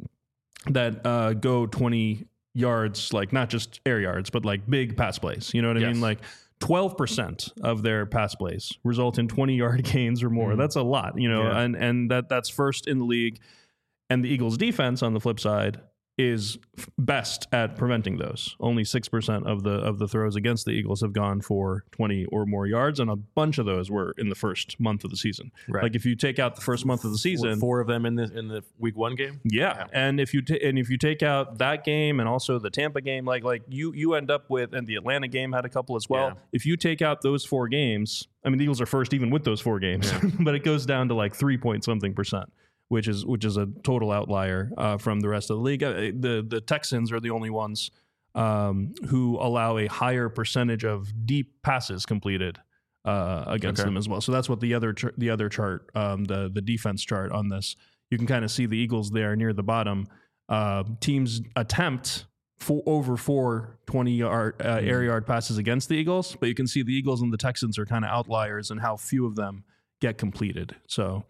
that go 20 yards, like not just air yards, but like big pass plays. You know what I mean? Like 12% of their pass plays result in 20-yard gains or more. That's a lot, and that's first in the league. And the Eagles defense on the flip side is best at preventing those. Only 6% of the throws against the Eagles have gone for 20 or more yards, and a bunch of those were in the first month of the season. Right. Like if you take out the first month of the season, 4 of them in the week 1 game. Yeah, and if you take out that game and also the Tampa game, like you end up with, and the Atlanta game had a couple as well. Yeah. If you take out those 4 games, the Eagles are first even with those 4 games, but it goes down to like 3-point-something%. Which is a total outlier from the rest of the league. The Texans are the only ones who allow a higher percentage of deep passes completed against them as well. So that's what the other chart, the defense chart on this. You can kind of see the Eagles there near the bottom. Teams attempt over 4 20-yard air yard passes against the Eagles, but you can see the Eagles and the Texans are kind of outliers in how few of them get completed. So.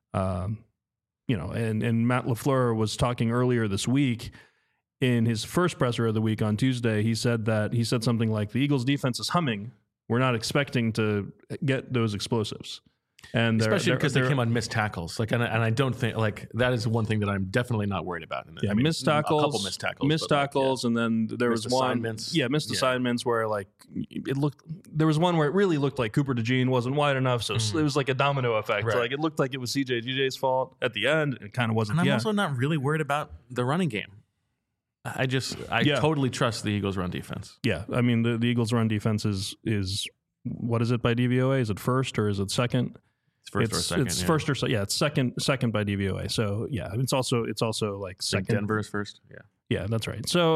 And Matt LaFleur was talking earlier this week in his first presser of the week on Tuesday. He said something like, the Eagles defense is humming. We're not expecting to get those explosives. And especially because they came on missed tackles. Like, and I don't think like that is one thing that I'm definitely not worried about. Missed tackles, a couple missed tackles, and then there was assignments. Assignments where like it looked. There was one where it really looked like Cooper DeJean wasn't wide enough, so it was like a domino effect. Right. So like it looked like it was CJ GJ's fault at the end. It kind of wasn't. And I'm also not really worried about the running game. I totally trust the Eagles' run defense. Yeah, the Eagles' run defense is what is it by DVOA? Is it first or is it second? First or second. It's first or second. Yeah, it's second by DVOA. So yeah, it's also like second. Like Denver is first. Yeah, that's right. So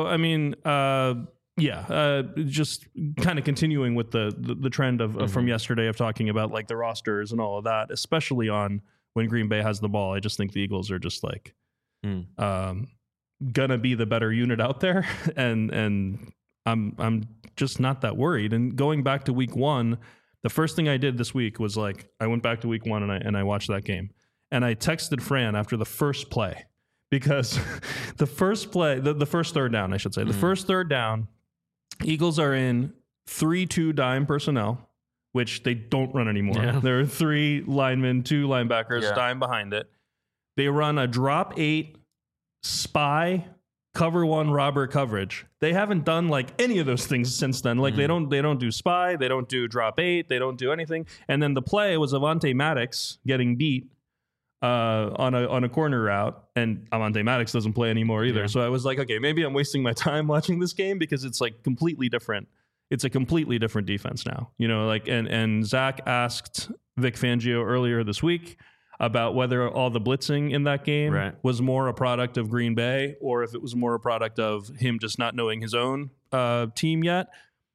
just kind of continuing with the trend of from yesterday of talking about like the rosters and all of that, especially on when Green Bay has the ball. I just think the Eagles are just like gonna be the better unit out there, and I'm just not that worried. And going back to week 1. The first thing I did this week was like, I went back to week 1 and I watched that game. And I texted Fran after the first play because the first play, the first third down, I should say, the first third down, Eagles are in 3-2 dime personnel, which they don't run anymore. Yeah. There are 3 linemen, 2 linebackers, dime behind it. They run a drop 8 spy cover 1 robber coverage. They haven't done like any of those things since then. Like they don't do spy, they don't do drop 8, they don't do anything. And then the play was Avonte Maddox getting beat on a corner route, and Avonte Maddox doesn't play anymore either. Yeah. So I was like, okay, maybe I'm wasting my time watching this game because it's like completely different. It's a completely different defense now, you know, like, and Zach asked Vic Fangio earlier this week about whether all the blitzing in that game was more a product of Green Bay or if it was more a product of him just not knowing his own team yet.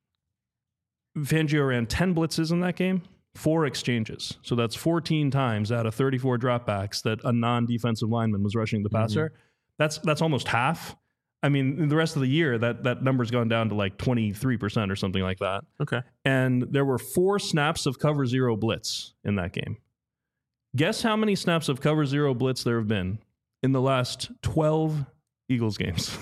Fangio ran 10 blitzes in that game, 4 exchanges. So that's 14 times out of 34 dropbacks that a non-defensive lineman was rushing the passer. That's almost half. I mean, the rest of the year, that number's gone down to like 23% or something like that. Okay. And there were 4 snaps of cover 0 blitz in that game. Guess how many snaps of cover 0 blitz there have been in the last 12 Eagles games?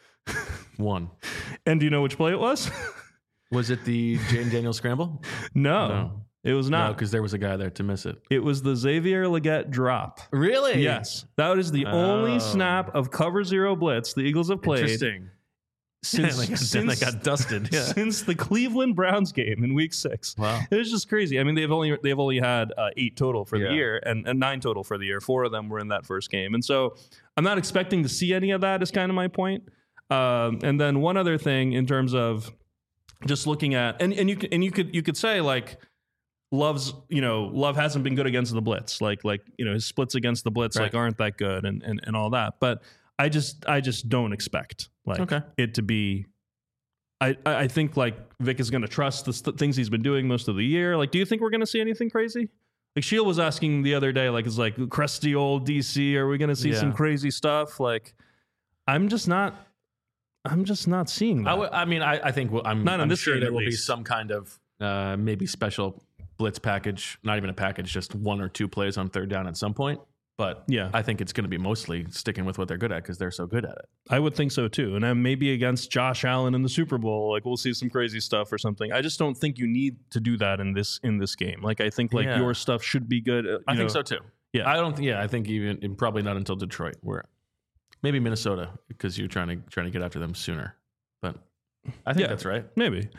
1. And do you know which play it was? Was it the Jane Daniels scramble? No. It was not. No, because there was a guy there to miss it. It was the Xavier Legette drop. Really? Yes. That is the only snap of cover 0 blitz the Eagles have played. Interesting. Since they got dusted. Since the Cleveland Browns game in week 6. Wow. It was just crazy. I mean, they've only had 8 total for the year and 9 total for the year. 4 of them were in that first game. And so I'm not expecting to see any of that is kind of my point. And then one other thing in terms of just looking at, and you could say like, Love hasn't been good against the blitz. Like, his splits against the blitz like aren't that good and all that. But I just don't expect it to be. I think like Vic is going to trust the things he's been doing most of the year. Like, do you think we're going to see anything crazy? Like Shield was asking the other day, like, it's like crusty old DC. Are we going to see some crazy stuff? Like, I'm just not seeing that. I think I'm sure there will be some kind of maybe special blitz package, not even a package, just 1 or 2 plays on third down at some point. But I think it's going to be mostly sticking with what they're good at because they're so good at it. I would think so too. And then maybe against Josh Allen in the Super Bowl, like we'll see some crazy stuff or something. I just don't think you need to do that in this game. Like I think your stuff should be good. I think so too. Yeah, I think even probably not until Detroit, where maybe Minnesota because you're trying to get after them sooner. But I think that's right. Maybe.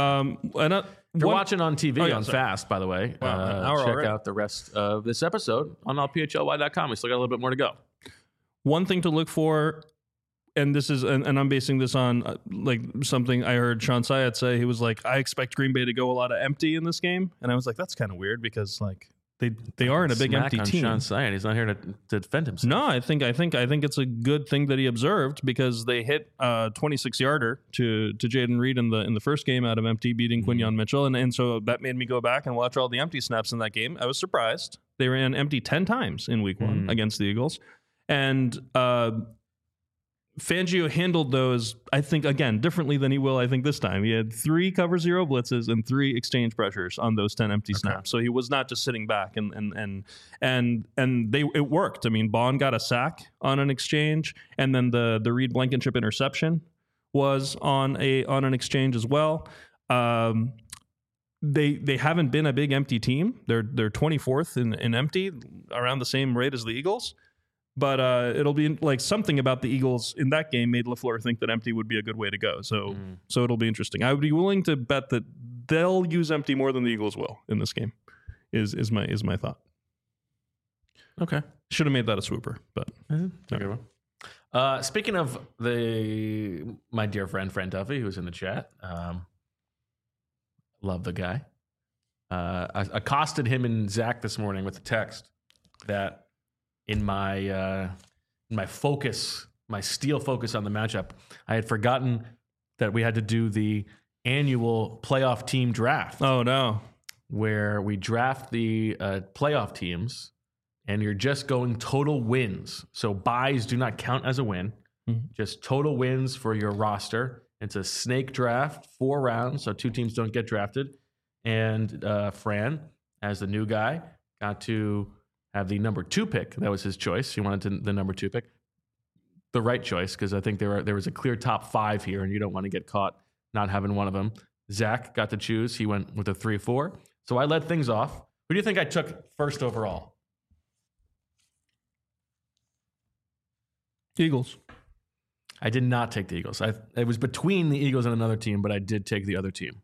If you're watching on TV on Fast, by the way, check out the rest of this episode on allphly.com. We still got a little bit more to go. One thing to look for, and this is, and I'm basing this on like something I heard Sean Syed say. He was like, I expect Green Bay to go a lot of empty in this game. And I was like, that's kind of weird because like they aren't a big empty team. Sean Syed, he's not here to defend himself. No, I think it's a good thing that he observed because they hit 26-yarder to Jaden Reed in the first game out of empty, beating Quinyon Mitchell, and so that made me go back and watch all the empty snaps in that game. I was surprised. They ran empty 10 times in week 1 against the Eagles, and Fangio handled those, I think, again, differently than he will, I think, this time. He had 3 cover 0 blitzes and 3 exchange pressures on those 10 empty snaps. So he was not just sitting back and it worked. I mean, Bond got a sack on an exchange, and then the Reed Blankenship interception was on an exchange as well. They haven't been a big empty team. They're 24th in empty, around the same rate as the Eagles. But it'll be like something about the Eagles in that game made LaFleur think that empty would be a good way to go. So it'll be interesting. I would be willing to bet that they'll use empty more than the Eagles will in this game. Is my thought. Okay, should have made that a swooper, but okay. Speaking of my dear friend Duffy, who's in the chat, love the guy. I accosted him and Zach this morning with a text that. In my focus, my steel focus on the matchup, I had forgotten that we had to do the annual playoff team draft. Oh, no. Where we draft the playoff teams, and you're just going total wins. So buys do not count as a win, just total wins for your roster. It's a snake draft, 4 rounds, so 2 teams don't get drafted. And Fran, as the new guy, got to have the number 2 pick. That was his choice. He wanted the number 2 pick. The right choice, because I think there was a clear top 5 here, and you don't want to get caught not having one of them. Zach got to choose. He went with a 3-4. So I led things off. Who do you think I took first overall? Eagles. I did not take the Eagles. It was between the Eagles and another team, but I did take the other team.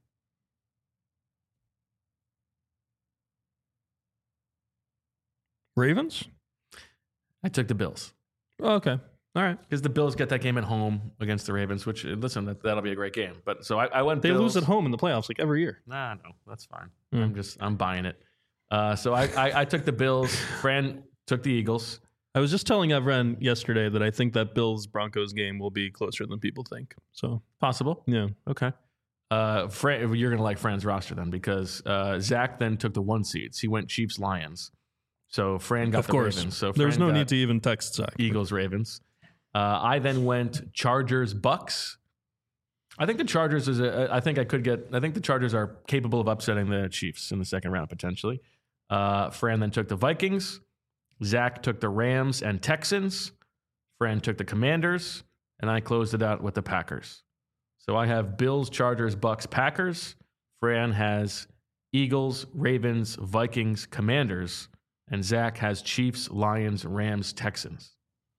Ravens? I took the Bills. Oh, okay. All right. Because the Bills get that game at home against the Ravens, which, listen, that'll be a great game. But so I went They Bills. lose at home in the playoffs like every year. Nah, no, that's fine. I'm buying it. So I took the Bills. Fran took the Eagles. I was just telling Evren yesterday that I think that Bills-Broncos game will be closer than people think. So Possible. yeah. Okay. Fran, you're going to like Fran's roster then, because Zach then took the 1 seeds. He went Chiefs-Lions. So Fran got the Ravens. So there's Fran no got need to even text Zach. Eagles-Ravens. I then went Chargers-Bucks. I think the Chargers I think the Chargers are capable of upsetting the Chiefs in the second round potentially. Fran then took the Vikings. Zach took the Rams and Texans. Fran took the Commanders, and I closed it out with the Packers. So I have Bills, Chargers, Bucks, Packers. Fran has Eagles, Ravens, Vikings, Commanders, and Zach has Chiefs, Lions, Rams, Texans.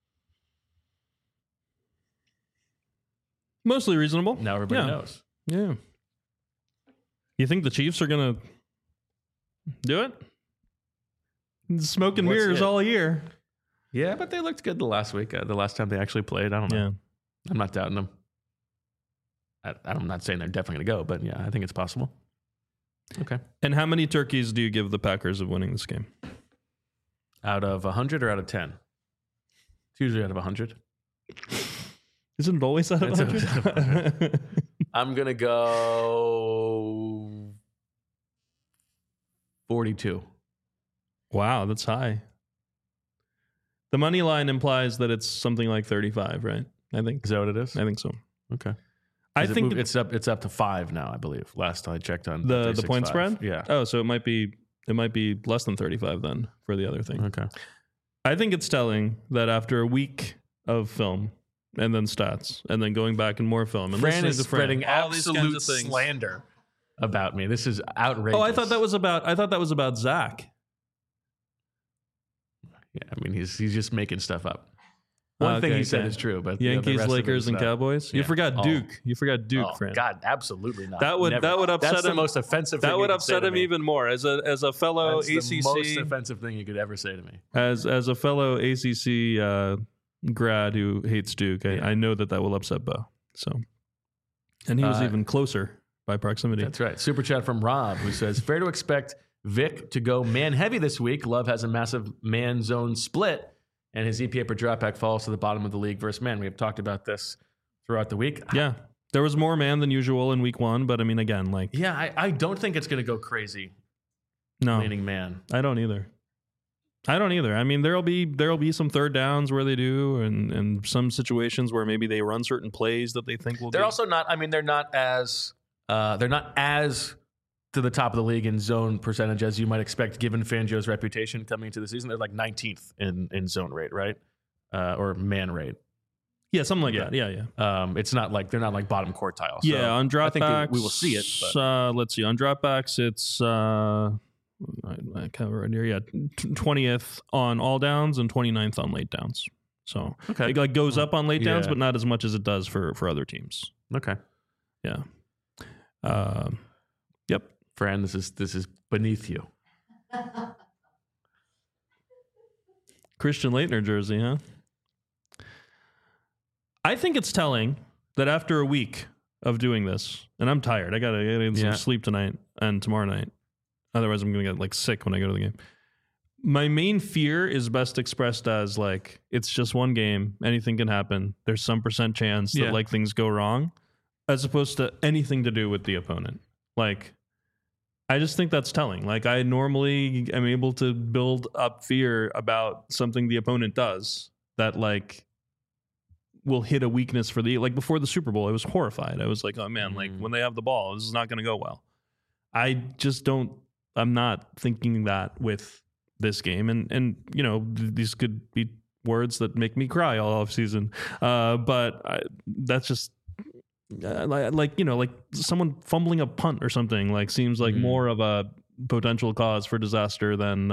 Mostly reasonable. Now everybody knows. Yeah. You think the Chiefs are going to do it? Smoke and mirrors all year. Yeah, but they looked good the last week. The last time they actually played. I don't know. Yeah. I'm not doubting them. I'm not saying they're definitely going to go, but yeah, I think it's possible. Okay. And how many turkeys do you give the Packers of winning this game? Out of 100 or out of 10? It's usually out of 100. Isn't it always out of 100? I'm going to go 42. Wow, that's high. The money line implies that it's something like 35, right? I think. Is that what it is? I think so. Okay. I think it's up to 5 now, I believe. Last I checked on the point spread? Yeah. Oh, so it might be less than 35 then for the other thing. Okay. I think it's telling that after a week of film and then stats and then going back and more film and Fran is spreading all these kinds absolute of things. slander about me. This is outrageous. Oh, I thought that was about Zach. Yeah, I mean he's just making stuff up. One thing he said is true, but Yankees, the rest Lakers, and Cowboys. Yeah. You forgot Duke. You forgot Duke, Fran. God, absolutely not. That would upset That's him. the most offensive thing. That would upset him even more as a fellow That's ACC. the most offensive thing you could ever say to me. As a fellow ACC grad who hates Duke, I know that will upset Bo. So, and he was even closer by proximity. That's right. Super chat from Rob, who says, fair to expect Vic to go man heavy this week. Love has a massive man zone split, and his EPA per dropback falls to the bottom of the league versus man. We have talked about this throughout the week. Yeah. There was more man than usual in week 1, but I mean, again, I don't think it's going to go crazy. No. Leaning man. I don't either. I mean, there'll be some third downs where they do, and some situations where maybe they run certain plays that they think will. They're also not. I mean, they're not as to the top of the league in zone percentage as you might expect, given Fangio's reputation coming into the season. They're like 19th in zone rate, right? Or man rate. Yeah, something like that. Yeah. It's not like they're not like bottom quartile. So yeah, on dropbacks, I think we will see it. But. Let's see. On dropbacks, it's I cover right here. Yeah, 20th on all downs and 29th on late downs. So it like goes up on late downs, but not as much as it does for other teams. Okay. Yeah. Yep. Fran, this is beneath you. Christian Laettner jersey, huh? I think it's telling that after a week of doing this, and I'm tired. I gotta get some sleep tonight and tomorrow night. Otherwise, I'm gonna get sick when I go to the game. My main fear is best expressed as it's just one game. Anything can happen. There's some % chance that things go wrong, as opposed to anything to do with the opponent. I just think that's telling. I normally am able to build up fear about something the opponent does that will hit a weakness for before the Super Bowl. I was horrified. I was like, oh man, when they have the ball, this is not going to go well. I'm not thinking that with this game. And these could be words that make me cry all off season. That's just like someone fumbling a punt or something seems like more of a potential cause for disaster than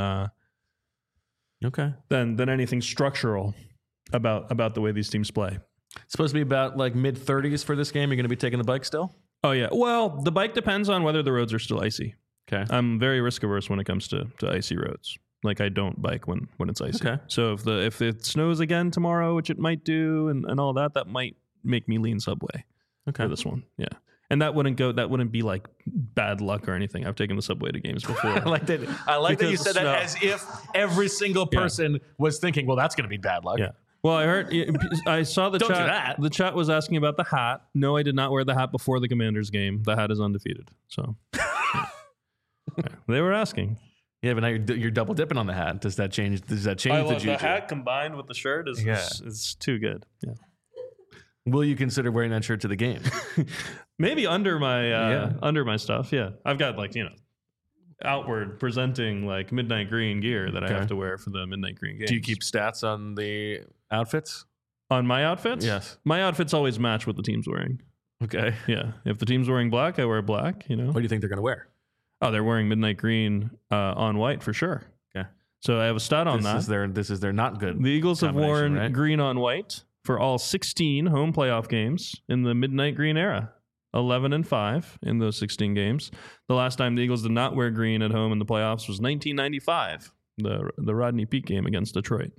anything structural about the way these teams play. It's supposed to be about mid-30s for this game. You're going to be taking the bike still? Oh yeah. Well, the bike depends on whether the roads are still icy. Okay. I'm very risk averse when it comes to icy roads. I don't bike when it's icy. Okay. So if it snows again tomorrow, which it might do, and all that might make me lean Subway. Okay. For this one. Yeah. And that wouldn't be bad luck or anything. I've taken the Subway to games before. I like that you said that as if every single person was thinking, well, that's going to be bad luck. Yeah. Well, I saw the Don't chat. do that. The chat was asking about the hat. No, I did not wear the hat before the Commanders game. The hat is undefeated. So they were asking. Yeah, but now you're double dipping on the hat. Does that change the juju? The hat combined with the shirt is too good. Yeah. Will you consider wearing that shirt to the game? Maybe under my stuff. Yeah, I've got outward presenting midnight green gear that I have to wear for the midnight green games. Do you keep stats on the outfits? On my outfits? Yes. My outfits always match what the team's wearing. Okay. Yeah. If the team's wearing black, I wear black. What do you think they're going to wear? Oh, they're wearing midnight green on white for sure. Okay. So I have a stat on that. This is their not good. The Eagles have worn right? green on white for all 16 home playoff games in the midnight green era. 11-5 in those 16 games. The last time the Eagles did not wear green at home in the playoffs was 1995, the Rodney Peake game against Detroit.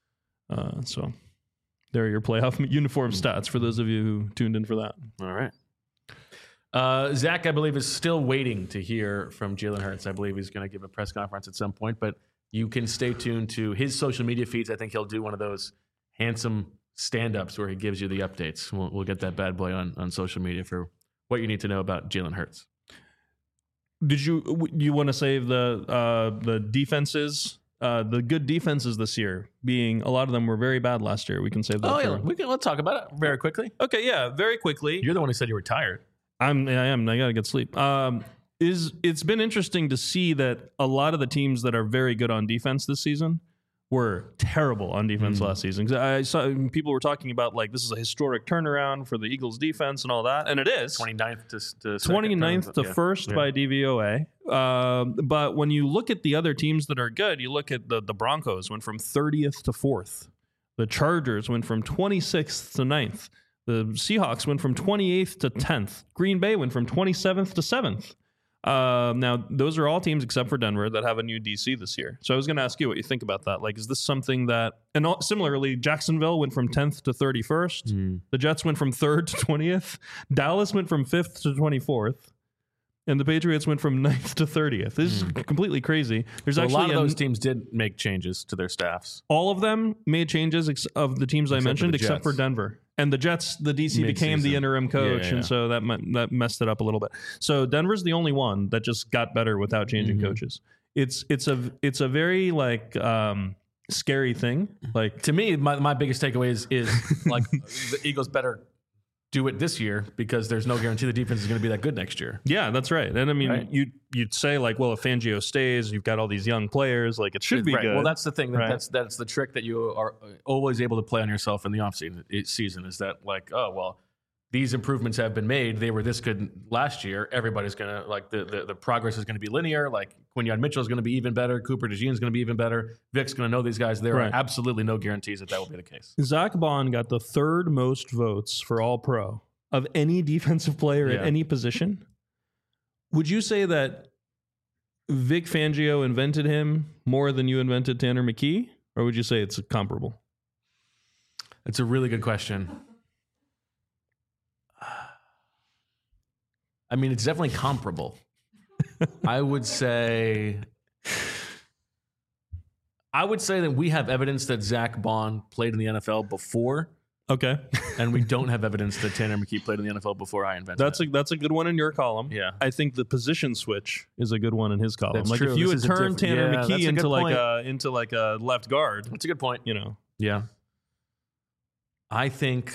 So there are your playoff uniform stats for those of you who tuned in for that. All right. Zach, I believe, is still waiting to hear from Jalen Hurts. I believe he's going to give a press conference at some point, but you can stay tuned to his social media feeds. I think he'll do one of those handsome stand-ups where he gives you the updates. We'll get that bad boy on social media for what you need to know about Jalen Hurts. Did you want to save the defenses? The good defenses this year, being a lot of them were very bad last year. We can save that. Oh yeah, let's talk about it very quickly. Okay, yeah, very quickly. You're the one who said you were tired. I am. I gotta get sleep. It's been interesting to see that a lot of the teams that are very good on defense this season were terrible on defense last season. I saw people were talking about this is a historic turnaround for the Eagles defense and all that, and it is 29th to 29th to first by DVOA. But when you look at the other teams that are good, you look at the Broncos went from 30th to 4th. The Chargers went from 26th to 9th. The Seahawks went from 28th to 10th. Green Bay went from 27th to 7th. Now, those are all teams except for Denver that have a new DC this year. So I was going to ask you what you think about that. Is this something that... And similarly, Jacksonville went from 10th to 31st. The Jets went from 3rd to 20th. Dallas went from 5th to 24th. And the Patriots went from 9th to 30th. This is completely crazy. There's actually a lot of those teams did make changes to their staffs. All of them made changes of the teams I mentioned, except for Denver. And the Jets, the DC became the interim coach, and so that messed it up a little bit. So Denver's the only one that just got better without changing coaches. It's a very scary thing. To me, my biggest takeaway is the Eagles better do it this year because there's no guarantee the defense is going to be that good next year. Yeah, that's right. And I mean, you'd say if Fangio stays, you've got all these young players, it should be good. Well, that's the thing. That's the trick that you are always able to play on yourself in the offseason is that these improvements have been made. They were this good last year. Everybody's going to the progress is going to be linear. Quinyon Mitchell is going to be even better. Cooper DeJean is going to be even better. Vic's going to know these guys. There are absolutely no guarantees that will be the case. Zach Bond got the 3rd most votes for All-Pro of any defensive player at any position. Would you say that Vic Fangio invented him more than you invented Tanner McKee? Or would you say it's comparable? It's a really good question. I mean, it's definitely comparable. I would say that we have evidence that Zach Bond played in the NFL before. Okay. And we don't have evidence that Tanner McKee played in the NFL before I invented it. That's a good one in your column. Yeah. I think the position switch is a good one in his column. That's true. If you had turned Tanner McKee into a left guard. That's a good point. Yeah. I think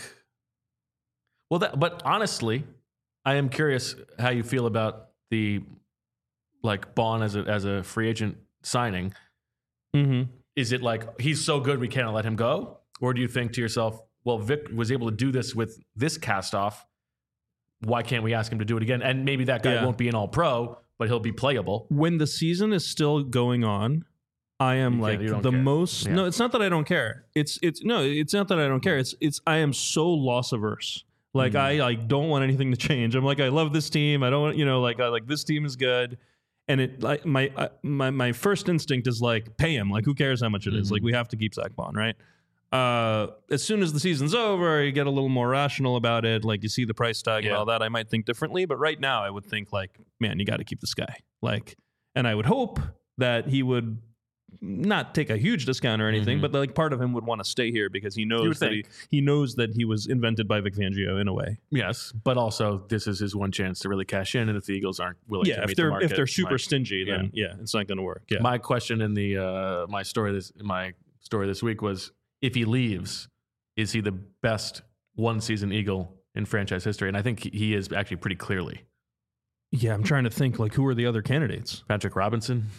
but honestly, I am curious how you feel about the like Bond as a free agent signing, is it like he's so good we can't let him go? Or do you think to yourself, well, Vic was able to do this with this cast off, why can't we ask him to do it again? And maybe that guy won't be an all-pro, but he'll be playable. When the season is still going on, I am like the most. Yeah. No, it's not that I don't care. It's not that I don't care. It's I am so loss averse. Like I don't want anything to change. I'm like, I love this team. I don't, I like this team is good. And it like my first instinct is like pay him. Like who cares how much it is? Like we have to keep Zach Bond, right? As soon as the season's over, you get a little more rational about it. Like you see the price tag and all that. I might think differently, but right now I would think like, man, you got to keep this guy. Like, and I would hope that he would not take a huge discount or anything, but like part of him would want to stay here because he knows that he knows that he was invented by Vic Fangio in a way. Yes, but also this is his one chance to really cash in, and if the Eagles aren't willing to meet the market, if they're super stingy, then it's not going to work. Yeah. My question in the my story this week was, if he leaves, is he the best one-season Eagle in franchise history? And I think he is actually pretty clearly. Yeah, I'm trying to think, like, who are the other candidates? Patrick Robinson.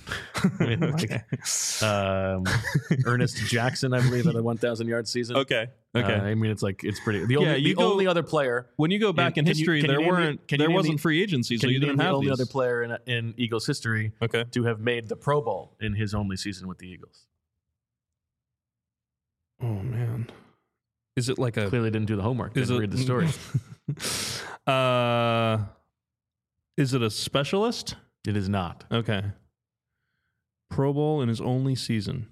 Ernest Jackson, I believe, had a 1,000-yard season. Okay. I mean, it's pretty. The only other player. When you go back in history, there wasn't free agency, so you didn't have the only other player in Eagles history to have made the Pro Bowl in his only season with the Eagles. Oh, man. Is it like Clearly didn't do the homework. Didn't read the story. Is it a specialist? It is not. Okay. Pro Bowl in his only season.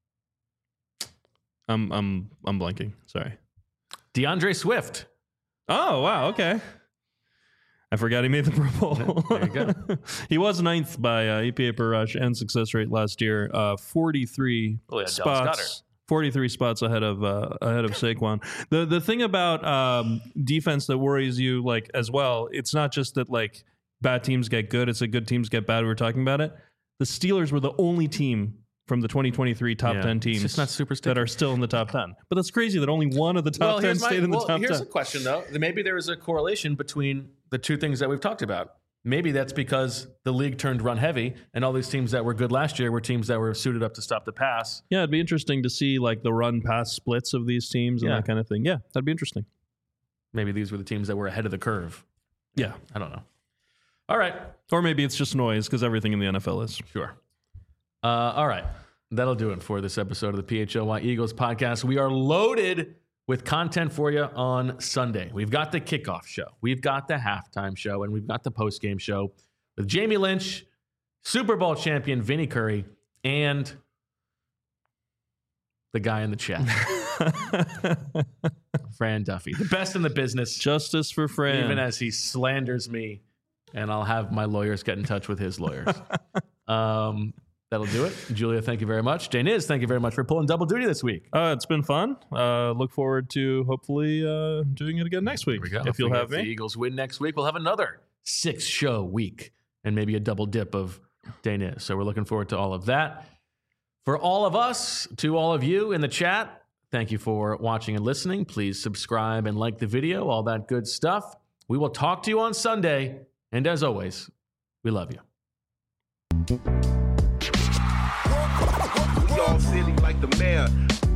I'm blanking. Sorry. DeAndre Swift. Oh, wow. Okay. I forgot he made the Pro Bowl. There you go. He was 9th by EPA per rush and success rate last year. 43 spots. 43 spots ahead of Saquon. The thing about defense that worries you like as well, it's not just that like bad teams get good, it's that good teams get bad. We were talking about it. The Steelers were the only team from the 2023 top 10 teams not super that are still in the top 10. But that's crazy that only one of the top 10 stayed in the top 10. Here's a question, though. Maybe there is a correlation between the two things that we've talked about. Maybe that's because the league turned run heavy, and all these teams that were good last year were teams that were suited up to stop the pass. Yeah, it'd be interesting to see like the run-pass splits of these teams and that kind of thing. Yeah, that'd be interesting. Maybe these were the teams that were ahead of the curve. Yeah. I don't know. All right. Or maybe it's just noise because everything in the NFL is. Sure. All right. That'll do it for this episode of the PHLY Eagles podcast. We are loaded with content for you on Sunday. We've got the kickoff show. We've got the halftime show, and we've got the postgame show with Jamie Lynch, Super Bowl champion Vinny Curry, and the guy in the chat, Fran Duffy, the best in the business. Justice for Fran. Even as he slanders me, and I'll have my lawyers get in touch with his lawyers. That'll do it. Julia, thank you very much. Daniz, thank you very much for pulling double duty this week. It's been fun. Look forward to hopefully doing it again next week. Here we go. If you'll have me. If the Eagles win next week, we'll have another 6-show week and maybe a double dip of Daniz. So we're looking forward to all of that. For all of us, to all of you in the chat, thank you for watching and listening. Please subscribe and like the video, all that good stuff. We will talk to you on Sunday. And as always, we love you. Y'all silly like the mayor.